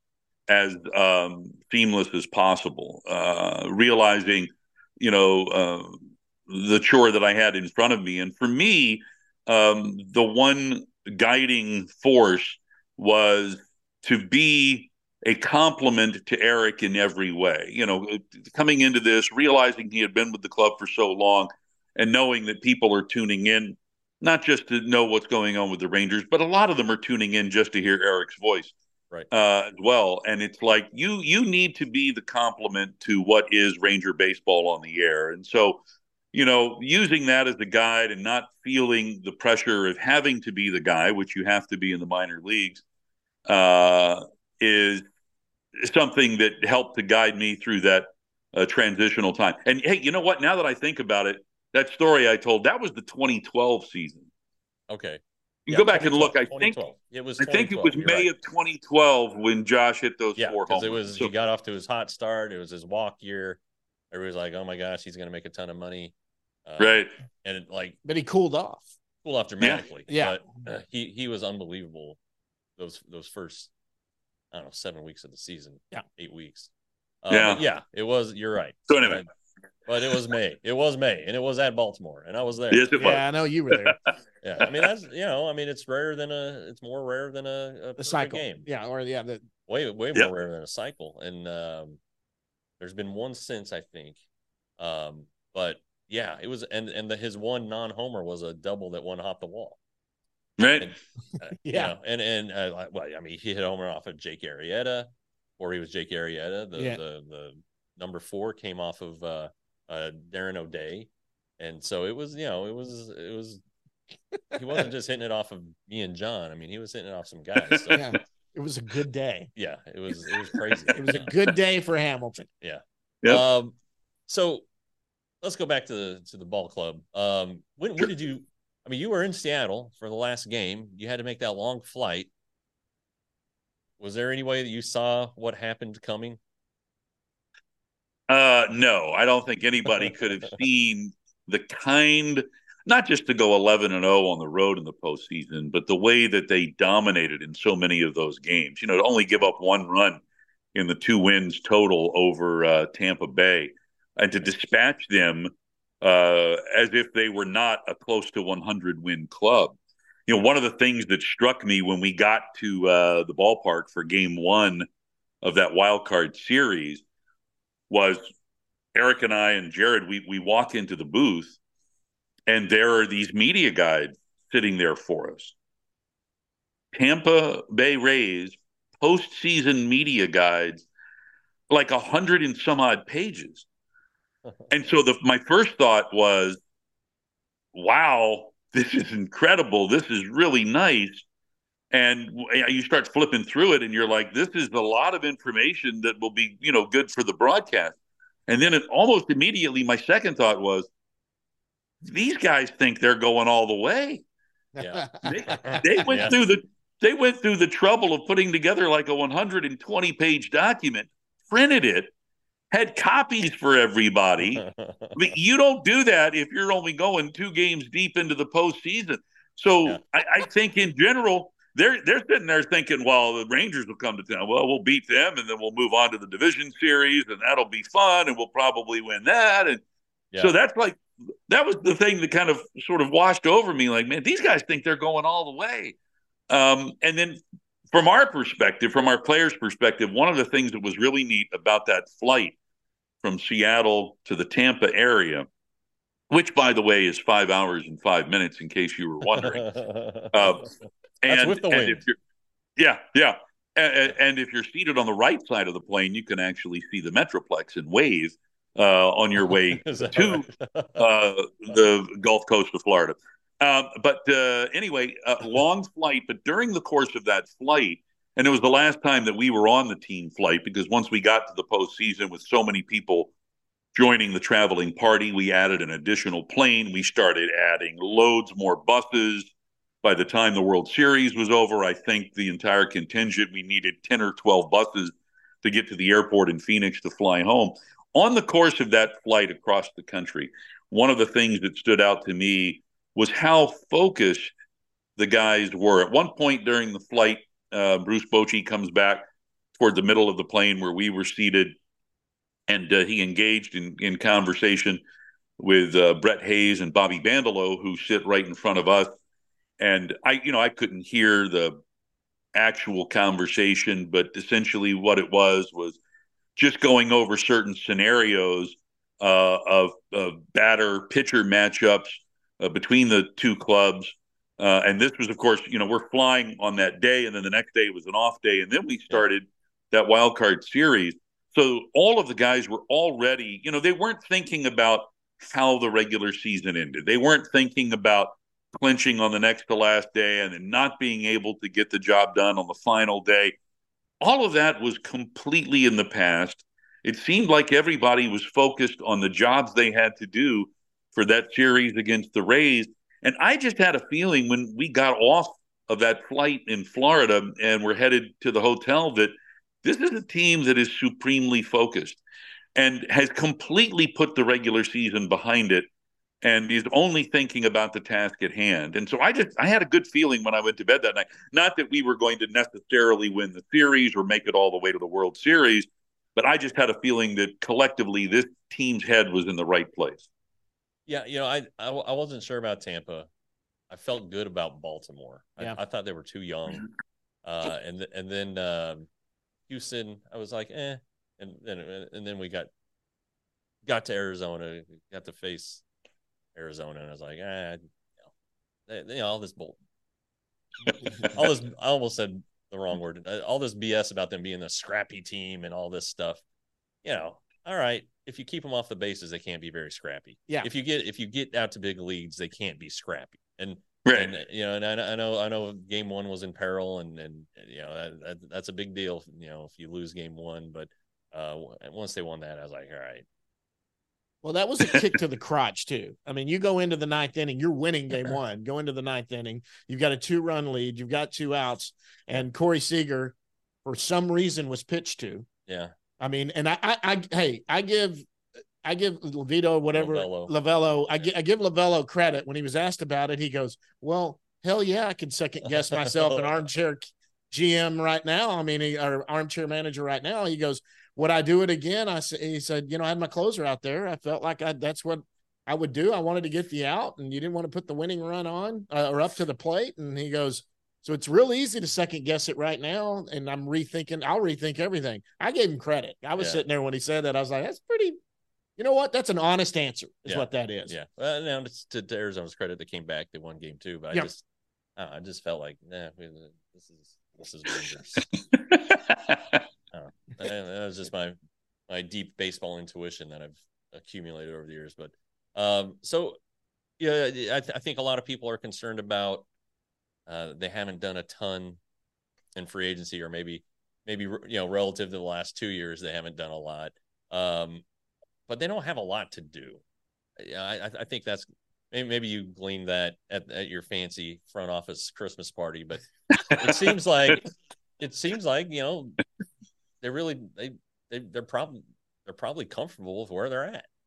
as um, seamless as possible, uh, realizing, you know, uh, the chore that I had in front of me. And for me, um, the one guiding force was to be a compliment to Eric in every way. You know, coming into this, realizing he had been with the club for so long and knowing that people are tuning in, not just to know what's going on with the Rangers, but a lot of them are tuning in just to hear Eric's voice. Right. Uh, as well. And it's like you you need to be the complement to what is Ranger baseball on the air. And so, you know, using that as a guide and not feeling the pressure of having to be the guy, which you have to be in the minor leagues, uh, is something that helped to guide me through that uh, transitional time. And hey, you know what? Now that I think about it, that story I told, that was the twenty twelve season. Okay. You yeah, go back and look. I think it was. I think it was May right. of twenty twelve when Josh hit those yeah, four because home it was. runs. So, he got off to his hot start. It was his walk year. Everybody was like, "Oh my gosh, he's going to make a ton of money." Um, right. And it, like, but he cooled off. Cooled off dramatically. Yeah. But uh, he he was unbelievable. Those those first, I don't know, seven weeks of the season. Yeah. Eight weeks. Uh, yeah. Yeah. It was. You're right. So anyway. But, but it was May. It was May, and it was at Baltimore, and I was there. Yes, it was. Yeah, I know you were there. Yeah, I mean that's you know, I mean it's rare than a, it's more rare than a, a the cycle game. Yeah, or yeah, the way way yep. more rare than a cycle. And um, there's been one since, I think. Um, but yeah, it was, and and the, his one non-homer was a double that one hopped the wall. Right. And, uh, yeah, you know, and and uh, well, I mean he hit a homer off of Jake Arrieta, or he was Jake Arrieta. The yeah. the the number four came off of uh, uh, Darren O'Day, and so it was you know it was it was. He wasn't just hitting it off of me and John. I mean, he was hitting it off some guys. So. Yeah, it was a good day. Yeah, it was. It was crazy. It was a good day for Hamilton. Yeah. Yep. Um. So let's go back to the to the ball club. Um. When when did you? I mean, you were in Seattle for the last game. You had to make that long flight. Was there any way that you saw what happened coming? Uh, no, I don't think anybody could have seen the kind. Not just to go eleven and oh on the road in the postseason, but the way that they dominated in so many of those games. You know, to only give up one run in the two wins total over uh, Tampa Bay, and to dispatch them uh, as if they were not a close to one hundred win club. You know, one of the things that struck me when we got to uh, the ballpark for game one of that wild card series was Eric and I and Jared, we we walk into the booth, and there are these media guides sitting there for us. Tampa Bay Rays postseason media guides, like a hundred and some odd pages. And so the my first thought was, wow, this is incredible. This is really nice. And you start flipping through it and you're like, this is a lot of information that will be, you know, good for the broadcast. And then it almost immediately, my second thought was, these guys think they're going all the way. Yeah. They, they went yeah. through the they went through the trouble of putting together like a one hundred twenty page document, printed it, had copies for everybody. I mean, you don't do that if you're only going two games deep into the postseason. So yeah. I, I think in general, they're they're sitting there thinking, well, the Rangers will come to town. Well, we'll beat them, and then we'll move on to the division series, and that'll be fun, and we'll probably win that. And yeah. so that's like that was the thing that kind of sort of washed over me. Like, man, these guys think they're going all the way. Um, and then from our perspective, from our players' perspective, one of the things that was really neat about that flight from Seattle to the Tampa area, which, by the way, is five hours and five minutes, in case you were wondering. uh, and, That's with the and wind. if you're, yeah, yeah. And, and if you're seated on the right side of the plane, you can actually see the Metroplex and wave uh, on your way to right? uh, the Gulf Coast of Florida. Um, but uh, anyway, a long flight. But during the course of that flight, and it was the last time that we were on the team flight, because once we got to the postseason with so many people joining the traveling party, we added an additional plane. We started adding loads more buses. By the time the World Series was over, I think the entire contingent, we needed ten or twelve buses to get to the airport in Phoenix to fly home. On the course of that flight across the country, one of the things that stood out to me was how focused the guys were. At one point during the flight, uh, Bruce Bochy comes back toward the middle of the plane where we were seated, and uh, he engaged in, in conversation with uh, Brett Hayes and Bobby Bandelow, who sit right in front of us. And I, you know, I couldn't hear the actual conversation, but essentially what it was was just going over certain scenarios uh, of, of batter pitcher matchups uh, between the two clubs. Uh, and this was, of course, you know, we're flying on that day, and then the next day was an off day, and then we started that wild card series. So all of the guys were already, you know, they weren't thinking about how the regular season ended. They weren't thinking about clinching on the next to last day and then not being able to get the job done on the final day. All of that was completely in the past. It seemed like everybody was focused on the jobs they had to do for that series against the Rays. And I just had a feeling when we got off of that flight in Florida and we're headed to the hotel that this is a team that is supremely focused and has completely put the regular season behind it and is only thinking about the task at hand. And so I just, I had a good feeling when I went to bed that night. Not that we were going to necessarily win the series or make it all the way to the World Series, but I just had a feeling that collectively this team's head was in the right place. Yeah, you know, I I, I wasn't sure about Tampa. I felt good about Baltimore. Yeah. I, I thought they were too young. Uh, and th- and then um, Houston, I was like, eh. And then and then we got got to Arizona, got to face Arizona, and I was like, ah, you know, they, you know all this bull, all this. I almost said the wrong word. All this B S about them being a scrappy team and all this stuff. You know, all right. If you keep them off the bases, they can't be very scrappy. Yeah. If you get if you get out to big leagues, they can't be scrappy. And right. and you know, and I, I know I know game one was in peril, and and you know that, that, that's a big deal. You know, if you lose game one, but uh, once they won that, I was like, all right. Well, that was a kick to the crotch too. I mean, you go into the ninth inning, you're winning game one. Go into the ninth inning, you've got a two-run lead, you've got two outs, and Corey Seager, for some reason, was pitched to. Yeah. I mean, and I, I, I hey, I give, I give Levito, whatever, Lovello. Lavello, I, I give Lavello credit. When he was asked about it, he goes, well, hell yeah, I can second guess myself an armchair G M right now. I mean, he, or armchair manager right now. He goes, would I do it again? I said, he said, you know, I had my closer out there. I felt like I, that's what I would do. I wanted to get the out, and you didn't want to put the winning run on uh, or up to the plate. And he goes, so it's real easy to second guess it right now. And I'm rethinking, I'll rethink everything. I gave him credit. I was yeah. sitting there when he said that. I was like, that's pretty, you know what? That's an honest answer is yeah. what that is. Yeah. Well, now to, to Arizona's credit, they came back, they won game two, but I yeah. just, I, I just felt like, nah, this is, this is dangerous. uh, and that was just my, my deep baseball intuition that I've accumulated over the years. But um, so, yeah, I, th- I think a lot of people are concerned about uh, they haven't done a ton in free agency, or maybe, maybe, you know, relative to the last two years, they haven't done a lot. Um, but they don't have a lot to do. I, I think that's maybe, maybe you gleaned that at, at your fancy front office Christmas party, but it seems like, it seems like, you know, they really, they, they they're probably, they're probably comfortable with where they're at.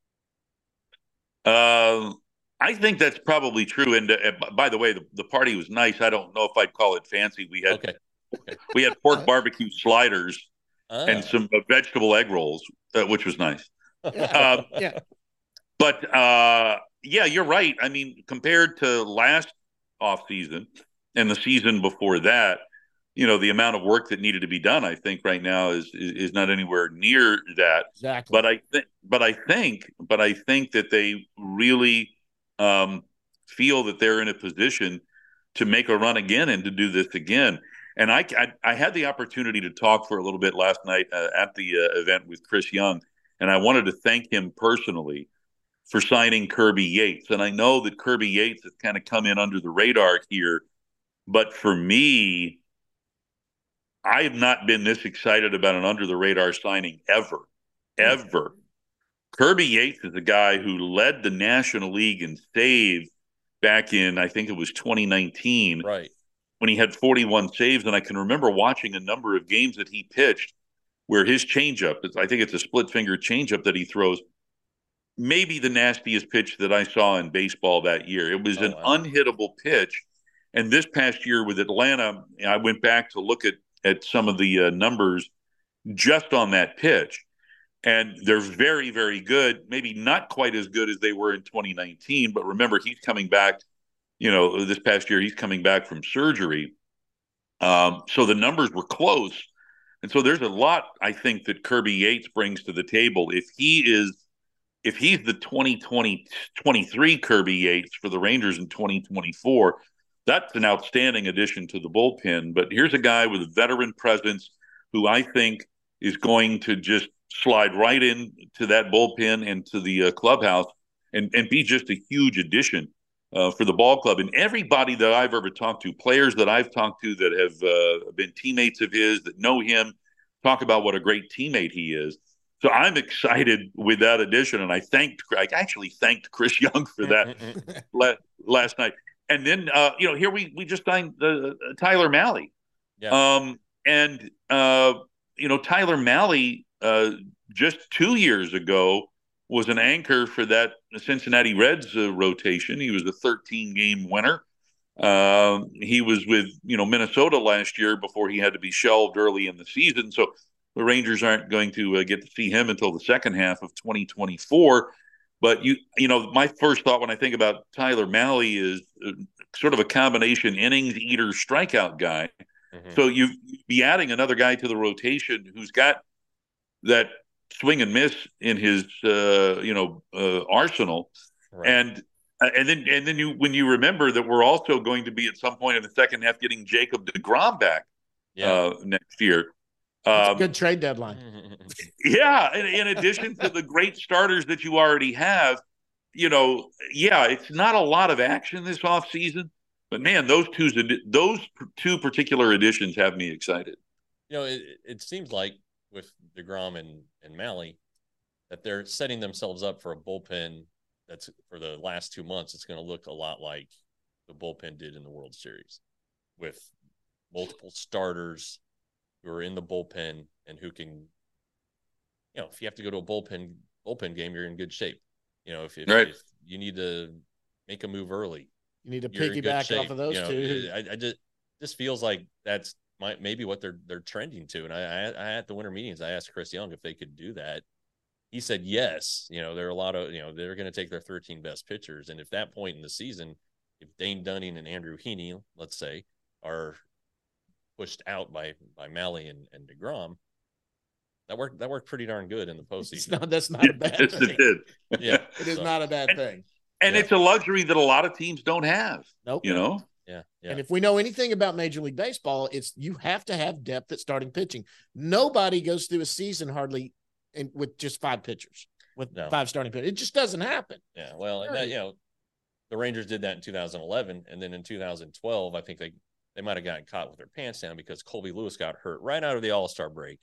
Um, I think that's probably true. And uh, by the way, the, the party was nice. I don't know if I'd call it fancy. We had okay. Okay. we had pork barbecue sliders ah. and some uh, vegetable egg rolls, uh, which was nice. Yeah. Uh, yeah. But uh, yeah, you're right. I mean, compared to last off season and the season before that, you know, the amount of work that needed to be done, I think right now is is, is not anywhere near that. Exactly. But I think, but I think, but I think that they really um, feel that they're in a position to make a run again and to do this again. And I, I, I had the opportunity to talk for a little bit last night uh, at the uh, event with Chris Young, and I wanted to thank him personally for signing Kirby Yates. And I know that Kirby Yates has kind of come in under the radar here, but for me, I have not been this excited about an under-the-radar signing ever, ever. Kirby Yates is a guy who led the National League in saves back in, I think it was twenty nineteen, right, when he had forty-one saves. And I can remember watching a number of games that he pitched where his changeup, I think it's a split-finger changeup that he throws, maybe the nastiest pitch that I saw in baseball that year. It was oh, an wow. unhittable pitch. And this past year with Atlanta, I went back to look at at some of the uh, numbers just on that pitch. And they're very, very good. Maybe not quite as good as they were in twenty nineteen, but remember, he's coming back, you know, this past year, he's coming back from surgery. Um, so the numbers were close. And so there's a lot, I think, that Kirby Yates brings to the table. If he is, if he's the twenty twenty, twenty-three Kirby Yates for the Rangers in twenty twenty-four, that's an outstanding addition to the bullpen. But here's a guy with a veteran presence who I think is going to just slide right into that bullpen and to the uh, clubhouse and, and be just a huge addition uh, for the ball club. And everybody that I've ever talked to, players that I've talked to that have uh, been teammates of his, that know him, talk about what a great teammate he is. So I'm excited with that addition. And I thanked, I actually thanked Chris Young for that la- last night. And then, uh, you know, here we, we just signed uh, Tyler Mahle. Yeah. Um, and, uh, you know, Tyler Mahle, uh, just two years ago was an anchor for that Cincinnati Reds uh, rotation. He was a thirteen game winner. Uh, he was with, you know, Minnesota last year before he had to be shelved early in the season. So the Rangers aren't going to uh, get to see him until the second half of twenty twenty-four. But, you you know, my first thought when I think about Tyler Mahle is uh, sort of a combination innings eater strikeout guy. Mm-hmm. So you'd be adding another guy to the rotation who's got that swing and miss in his, uh, you know, uh, arsenal. Right. And and then and then you when you remember that we're also going to be at some point in the second half getting Jacob deGrom back yeah. uh, next year. That's um, a good trade deadline. Yeah. In, in addition to the great starters that you already have, you know, yeah, it's not a lot of action this offseason, but man, those two, those two particular additions have me excited. You know, it, it seems like with deGrom and, and Mahle that they're setting themselves up for a bullpen that's for the last two months. It's going to look a lot like the bullpen did in the World Series with multiple starters who are in the bullpen and who can, you know, if you have to go to a bullpen bullpen game, you're in good shape. You know, if, if, right. if you need to make a move early, you need to piggyback off of those you know, two. I, I just just feels like that's my, maybe what they're they're trending to. And I, I, I at the winter meetings, I asked Chris Young if they could do that. He said yes. You know, there are a lot of, you know, they're going to take their thirteen best pitchers, and if that point in the season, if Dane Dunning and Andrew Heaney, let's say, are pushed out by by Mahle and, and deGrom, that worked that worked pretty darn good in the postseason. No, that's not a bad yes, thing. It did. Yeah, it is so. not a bad and, thing. And yeah. it's a luxury that a lot of teams don't have. Nope. You know? Yeah, yeah. And if we know anything about Major League Baseball, it's you have to have depth at starting pitching. Nobody goes through a season hardly in, with just five pitchers, with no. five starting pitchers. It just doesn't happen. Yeah, well, and that, you know, the Rangers did that in two thousand eleven, and then in two thousand twelve, I think they they might have gotten caught with their pants down because Colby Lewis got hurt right out of the All-Star break,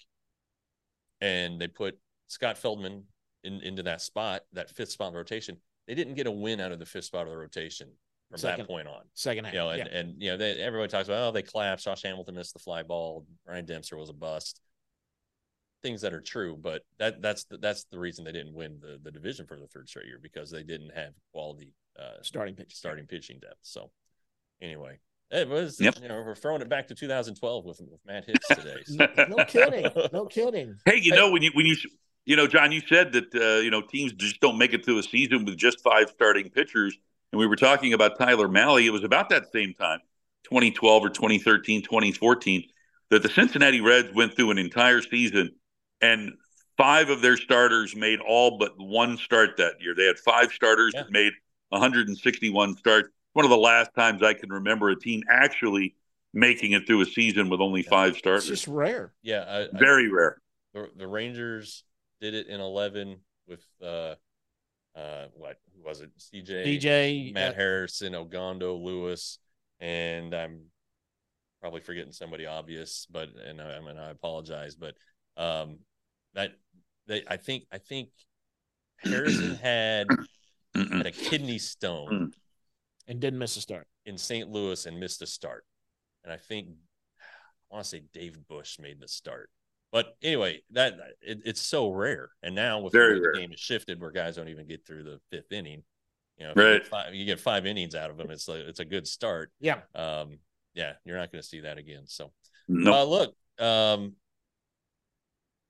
and they put Scott Feldman in, into that spot, that fifth spot in the rotation. They didn't get a win out of the fifth spot of the rotation from second, that point on. Second half, you know, and, yeah. and you know, they, everybody talks about, oh, they collapsed. Josh Hamilton missed the fly ball. Ryan Dempster was a bust. Things that are true, but that that's the, that's the reason they didn't win the, the division for the third straight year, because they didn't have quality uh, starting pitch, starting pitching depth. So anyway, it was yep. you know we're throwing it back to two thousand twelve with with Matt Hicks today. So. no, no kidding, no kidding. Hey, you know when you when you you know John, you said that uh, you know teams just don't make it through a season with just five starting pitchers, and we were talking about Tyler Mahle. It was about that same time, twenty twelve or twenty thirteen, twenty fourteen, that the Cincinnati Reds went through an entire season. And five of their starters made all but one start that year. They had five starters yeah. that made one hundred sixty-one starts. One of the last times I can remember a team actually making it through a season with only yeah. five starters. It's just rare. Yeah. I, Very I, rare. The, the Rangers did it in eleven with, uh, uh, what who was it? C J, D J, Matt uh, Harrison, Ogando, Lewis, and I'm probably forgetting somebody obvious, but, and I, I mean, I apologize, but, um, that they, I think, I think Harrison had, had a kidney stone and didn't miss a start in Saint Louis and missed a start. And I think, I want to say Dave Bush made the start, but anyway, that it, it's so rare. And now with Very the way rare. the game has shifted where guys don't even get through the fifth inning, you know, if right. you, get five, you get five innings out of them. It's like, it's a good start. Yeah. Um, yeah. You're not going to see that again. So no. uh, look, um,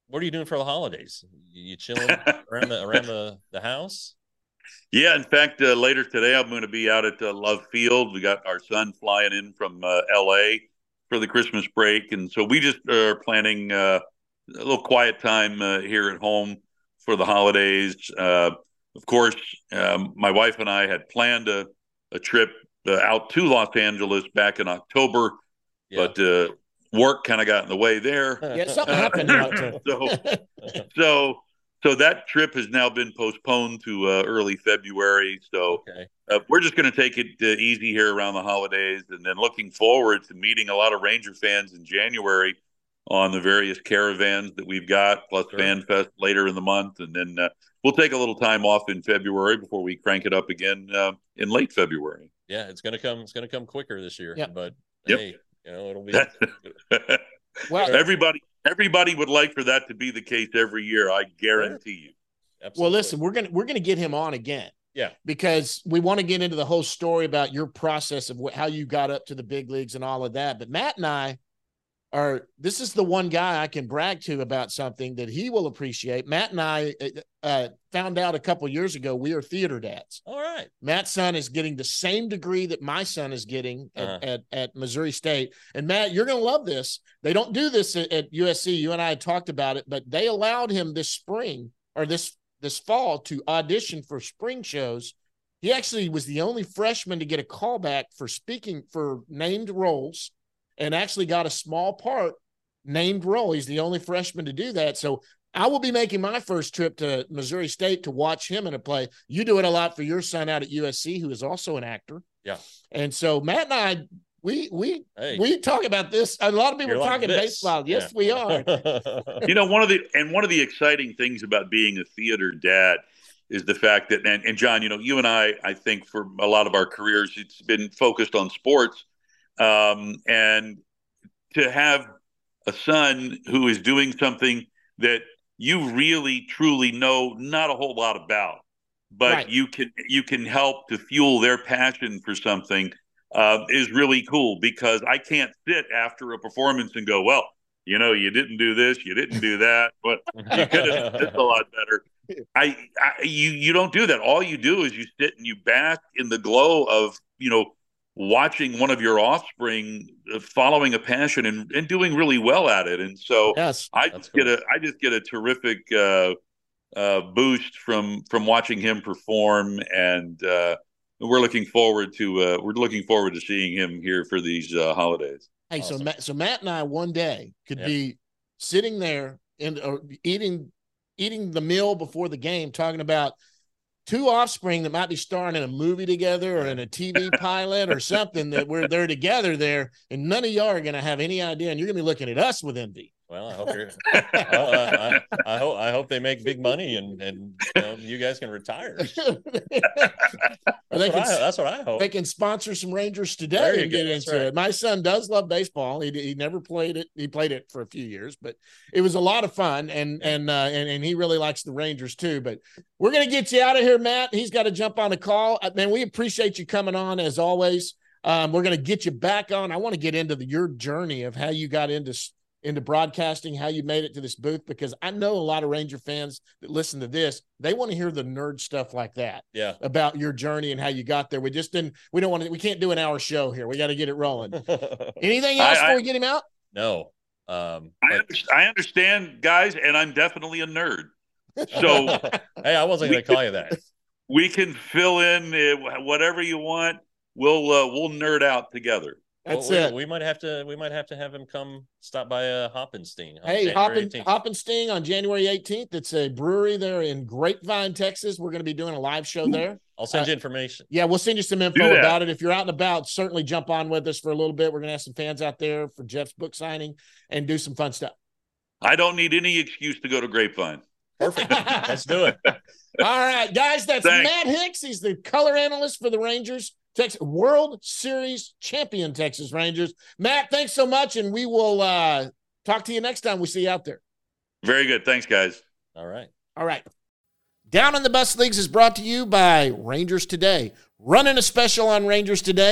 what are you doing for the holidays? You chilling around the around the, the house? Yeah, in fact, uh, later today I'm going to be out at uh, Love Field. We got our son flying in from uh, L A for the Christmas break, and so we just are planning uh, a little quiet time uh, here at home for the holidays. Uh, of course, um, my wife and I had planned a, a trip uh, out to Los Angeles back in October, yeah. but uh, work kind of got in the way there. Yeah, something happened in October. so, so, so that trip has now been postponed to uh, early February. So okay. uh, we're just going to take it uh, easy here around the holidays, and then looking forward to meeting a lot of Ranger fans in January on the various caravans that we've got, plus sure. Fan Fest later in the month. And then uh, we'll take a little time off in February before we crank it up again uh, in late February. Yeah, it's going to come, it's going to come quicker this year, yep. but yep. hey, you know, it'll be. well, everybody, everybody would like for that to be the case every year. I guarantee you. Absolutely. Well, listen, we're going to, we're going to get him on again. Yeah. Because we want to get into the whole story about your process of wh- how you got up to the big leagues and all of that. But Matt and I, Are, this is the one guy I can brag to about something that he will appreciate. Matt and I uh, found out a couple years ago we are theater dads. All right. Matt's son is getting the same degree that my son is getting at, uh-huh. at, at Missouri State. And, Matt, you're going to love this. They don't do this at, at U S C. You and I had talked about it, but they allowed him this spring or this, this fall to audition for spring shows. He actually was the only freshman to get a callback for speaking for named roles, and actually got a small part named role. He's the only freshman to do that. So I will be making my first trip to Missouri State to watch him in a play. You do it a lot for your son out at U S C, who is also an actor. Yeah. And so Matt and I, we we hey. we talk about this. A lot of people You're are talking like baseball. Yes, yeah. we are. You know, one of the and one of the exciting things about being a theater dad is the fact that, and, and John, you know, you and I, I think for a lot of our careers, it's been focused on sports. Um, and to have a son who is doing something that you really truly know not a whole lot about, but right. you can you can help to fuel their passion for something uh, is really cool, because I can't sit after a performance and go, well, you know, you didn't do this, you didn't do that, but you could have done this a lot better. I, I you you don't do that. All you do is you sit and you bask in the glow of, you know, watching one of your offspring following a passion and, and doing really well at it. And so yes, I just cool. get a, I just get a terrific uh, uh, boost from, from watching him perform. And uh, we're looking forward to, uh, we're looking forward to seeing him here for these uh, holidays. Hey, awesome. so Matt, so Matt and I one day could yeah. be sitting there and or eating, eating the meal before the game, talking about two offspring that might be starring in a movie together or in a T V pilot or something, that we're they're together there, and none of y'all are going to have any idea, and you're going to be looking at us with envy. Well, I hope you're. well, I, I, I hope I hope they make big money, and and you, know, you guys can retire. that's, they what can, I, that's what I hope. They can sponsor some Rangers today and get into right. it. My son does love baseball. He he never played it. He played it for a few years, but it was a lot of fun, and yeah. and uh, and and he really likes the Rangers too. But we're gonna get you out of here, Matt. He's got to jump on a call. Man, we appreciate you coming on as always. Um, we're gonna get you back on. I want to get into the, your journey of how you got into. into broadcasting, how you made it to this booth, because I know a lot of Ranger fans that listen to this, they want to hear the nerd stuff like that. Yeah. About your journey and how you got there. We just didn't, we don't want to, we can't do an hour show here. We got to get it rolling. Anything else I, before I, we get him out? No. Um, I, but... I understand, guys, and I'm definitely a nerd. So, hey, I wasn't going to call you that. We can fill in uh, whatever you want. We'll, uh, we'll nerd out together. That's well, we, it. We might have to. We might have to have him come stop by uh, Hoppenstein. Hey, Hoppen, Hoppenstein on January eighteenth. It's a brewery there in Grapevine, Texas. We're going to be doing a live show there. I'll send uh, you information. Yeah, we'll send you some info about it. If you're out and about, certainly jump on with us for a little bit. We're going to have some fans out there for Jeff's book signing and do some fun stuff. I don't need any excuse to go to Grapevine. Perfect. Let's do it. All right, guys. That's Thanks. Matt Hicks. He's the color analyst for the Rangers. Texas World Series champion Texas Rangers. Matt, thanks so much, and we will uh, talk to you next time we see you out there. Very good. Thanks, guys. All right. All right. Down in the Bus Leagues is brought to you by Rangers Today. Running a special on Rangers Today.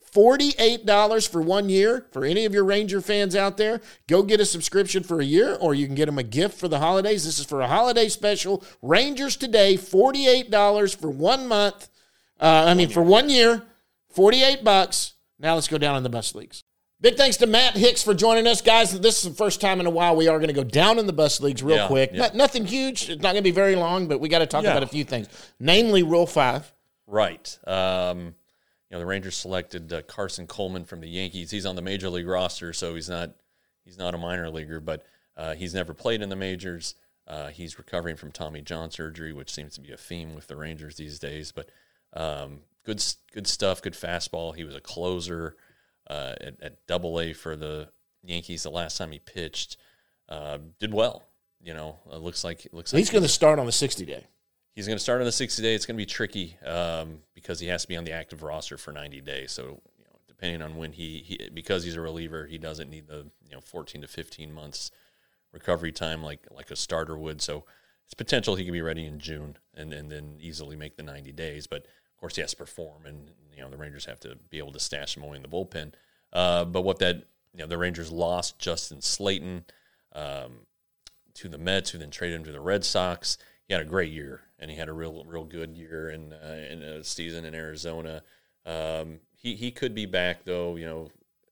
forty-eight dollars for one year. For any of your Ranger fans out there, go get a subscription for a year, or you can get them a gift for the holidays. This is for a holiday special. Rangers Today, forty-eight dollars for one month. Uh, I mean, for one year, forty-eight bucks. Now let's go down in the bus leagues. Big thanks to Matt Hicks for joining us, guys. This is the first time in a while we are going to go down in the bus leagues real yeah, quick. Yeah. Not, nothing huge. It's not going to be very long, but we got to talk yeah. about a few things, namely Rule Five. Right. Um, you know, the Rangers selected uh, Carson Coleman from the Yankees. He's on the major league roster, so he's not he's not a minor leaguer, but uh, he's never played in the majors. Uh, he's recovering from Tommy John surgery, which seems to be a theme with the Rangers these days. But um, good good stuff, good fastball. He was a closer. Uh, at, at Double A for the Yankees the last time he pitched, uh, did well. You know, it looks like it looks like He's going to start on the sixty day. He's going to start on the sixty day. It's going to be tricky um, because he has to be on the active roster for ninety days. So, you know, depending on when he, he because he's a reliever, he doesn't need the you know fourteen to fifteen months recovery time like like a starter would. So, it's potential he could be ready in June and and then easily make the ninety days. But of course, he has to perform, and you know the Rangers have to be able to stash him away in the bullpen. Uh, but what that you know the Rangers lost Justin Slayton um, to the Mets, who then traded him to the Red Sox. He had a great year, and he had a real real good year in uh, in a season in Arizona. Um, he he could be back though. You know,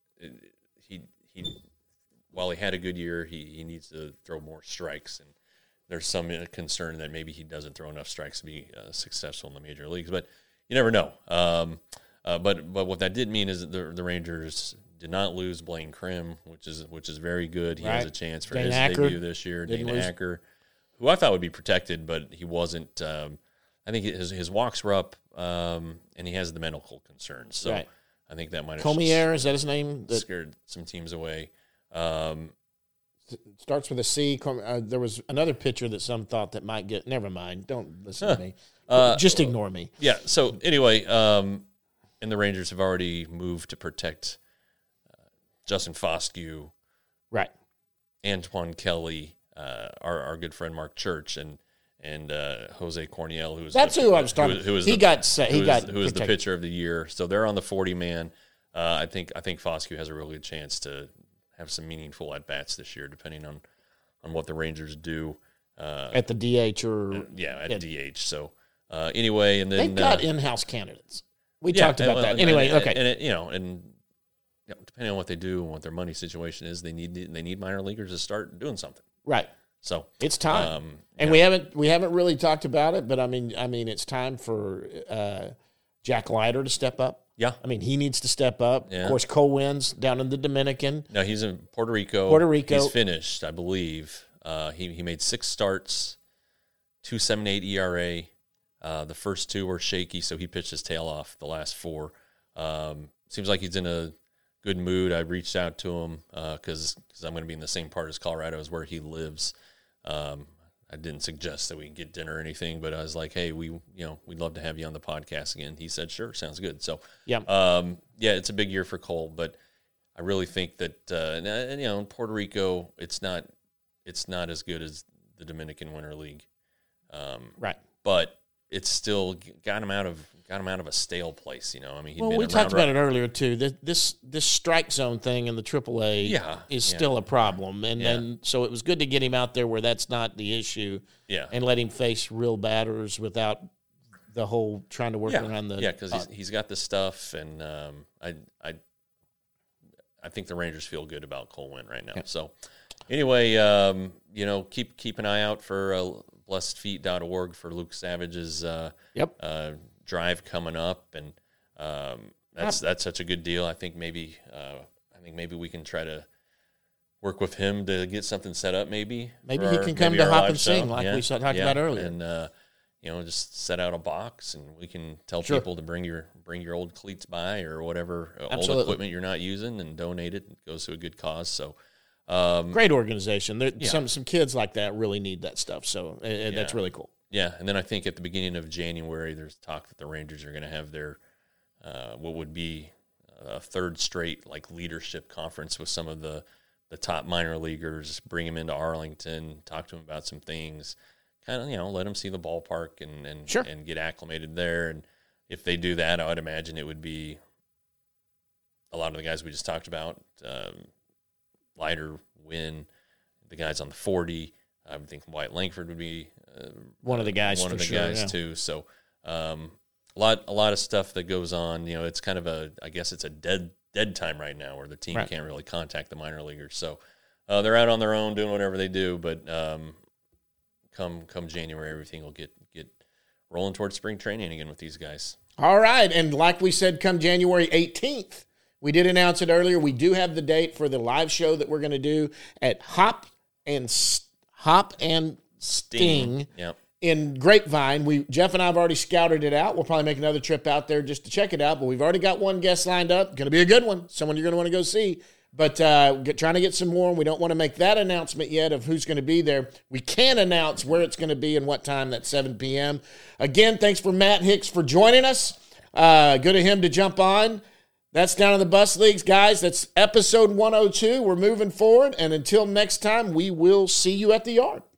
he he while he had a good year, he he needs to throw more strikes, and there's some concern that maybe he doesn't throw enough strikes to be uh, successful in the major leagues, but. You never know. Um, uh, but but what that did mean is that the, the Rangers did not lose Blaine Krim, which is which is very good. He right. has a chance for Dane his Acker. debut this year. Didn't Dane lose. Acker, who I thought would be protected, but he wasn't. Um, I think his his walks were up, um, and he has the medical concerns. So Right. I think that might have Comier, is that his name? That scared some teams away. Um, starts with a C. Com- Uh, there was another pitcher that some thought that might get. Never mind. Don't listen Huh. to me. Uh, Just ignore me. Yeah. So anyway, um, and the Rangers have already moved to protect uh, Justin Foscue, Right. Antoine Kelly, uh, our our good friend Mark Church, and and uh, Jose Corniel, who was That's the, who I was talking. Who, who was he the, got. Sa- who he was, got. who was the protected. pitcher of the year. So they're on the forty man. Uh, I think I think Foscue has a really good chance to have some meaningful at bats this year, depending on on what the Rangers do uh, at the D H or yeah at yeah. D H. So. Uh, anyway, and then They've got uh, in-house candidates. We yeah, talked about well, that. and- Anyway, and, okay. and it, you know, and you know, depending on what they do and what their money situation is, they need they need minor leaguers to start doing something. Right. So It's time. um, and yeah. we haven't we haven't really talked about it, but I mean I mean it's time for uh, Jack Leiter to step up. Yeah, I mean he needs to step up. Yeah. Of course, Cole Wins down in the Dominican. No, he's in Puerto Rico. Puerto Rico. He's finished, I believe. Uh, he he made six starts, two seven eight E R A. Uh, the first two were shaky, so he pitched his tail off the last four. Um, seems like he's in a good mood. I reached out to him because uh, I'm going to be in the same part as Colorado as where he lives. Um, I didn't suggest that we get dinner or anything, but I was like, hey, we you know we'd love to have you on the podcast again. He said, sure, sounds good. So Yeah. um, yeah, it's a big year for Cole, but I really think that uh, and, and, you know in Puerto Rico, it's not it's not as good as the Dominican Winter League, um, Right. but it's still got him out of got him out of a stale place. You know, I mean, he'd Well, been we around talked about right- it earlier too. This this this strike zone thing in the triple A Yeah, is yeah. still a problem, and Yeah. and so it was good to get him out there where that's not the issue, Yeah, and let him face real batters without the whole trying to work yeah, around the yeah, because he's uh, he's got the stuff, and um, I I I think the Rangers feel good about Cole Winn right now. Yeah. So anyway, um, you know, keep keep an eye out for uh, blessed feet dot org for Luke Savage's uh, Yep. uh, drive coming up, and um, that's that's such a good deal. I think maybe uh, I think maybe we can try to work with him to get something set up. Maybe Maybe for he our- can come maybe to our Hop live and Sing show. like Yeah, we saw- talked yeah. about earlier. and uh, you know, just set out a box, and we can tell Sure. people to bring your bring your old cleats by or whatever uh, old Absolutely. equipment you're not using, and donate it. It goes to a good cause. So. Um, Great organization. There, Yeah. Some some kids like that really need that stuff, so uh, uh, that's Yeah. really cool. Yeah, and then I think at the beginning of January, there's talk that the Rangers are going to have their uh, what would be a third straight like leadership conference with some of the the top minor leaguers. Bring them into Arlington, talk to them about some things, kind of you know let them see the ballpark and and Sure. and get acclimated there. And if they do that, I would imagine it would be a lot of the guys we just talked about, um, Leiter, Wynn, the guys on the forty. I would think Wyatt Langford would be uh, one of the guys. One of the sure, guys yeah. too. So um, a lot, a lot of stuff that goes on. You know, it's kind of a, I guess it's a dead, dead time right now where the team right. can't really contact the minor leaguers. So uh, they're out on their own doing whatever they do. But um, come, come January, everything will get get rolling towards spring training again with these guys. All right, and like we said, come January eighteenth, we did announce it earlier. We do have the date for the live show that we're going to do at Hop and Hop and Sting, Sting. Yep. in Grapevine. We Jeff and I have already scouted it out. We'll probably make another trip out there just to check it out. But we've already got one guest lined up. Going to be a good one. Someone you're going to want to go see. But uh, get, trying to get some more. We don't want to make that announcement yet of who's going to be there. We can announce where it's going to be and what time. That's seven p.m. Again, thanks for Matt Hicks for joining us. Uh, good of him to jump on. That's Down in the Bus Leagues, guys. That's episode one oh two. We're moving forward. And until next time, we will see you at the yard.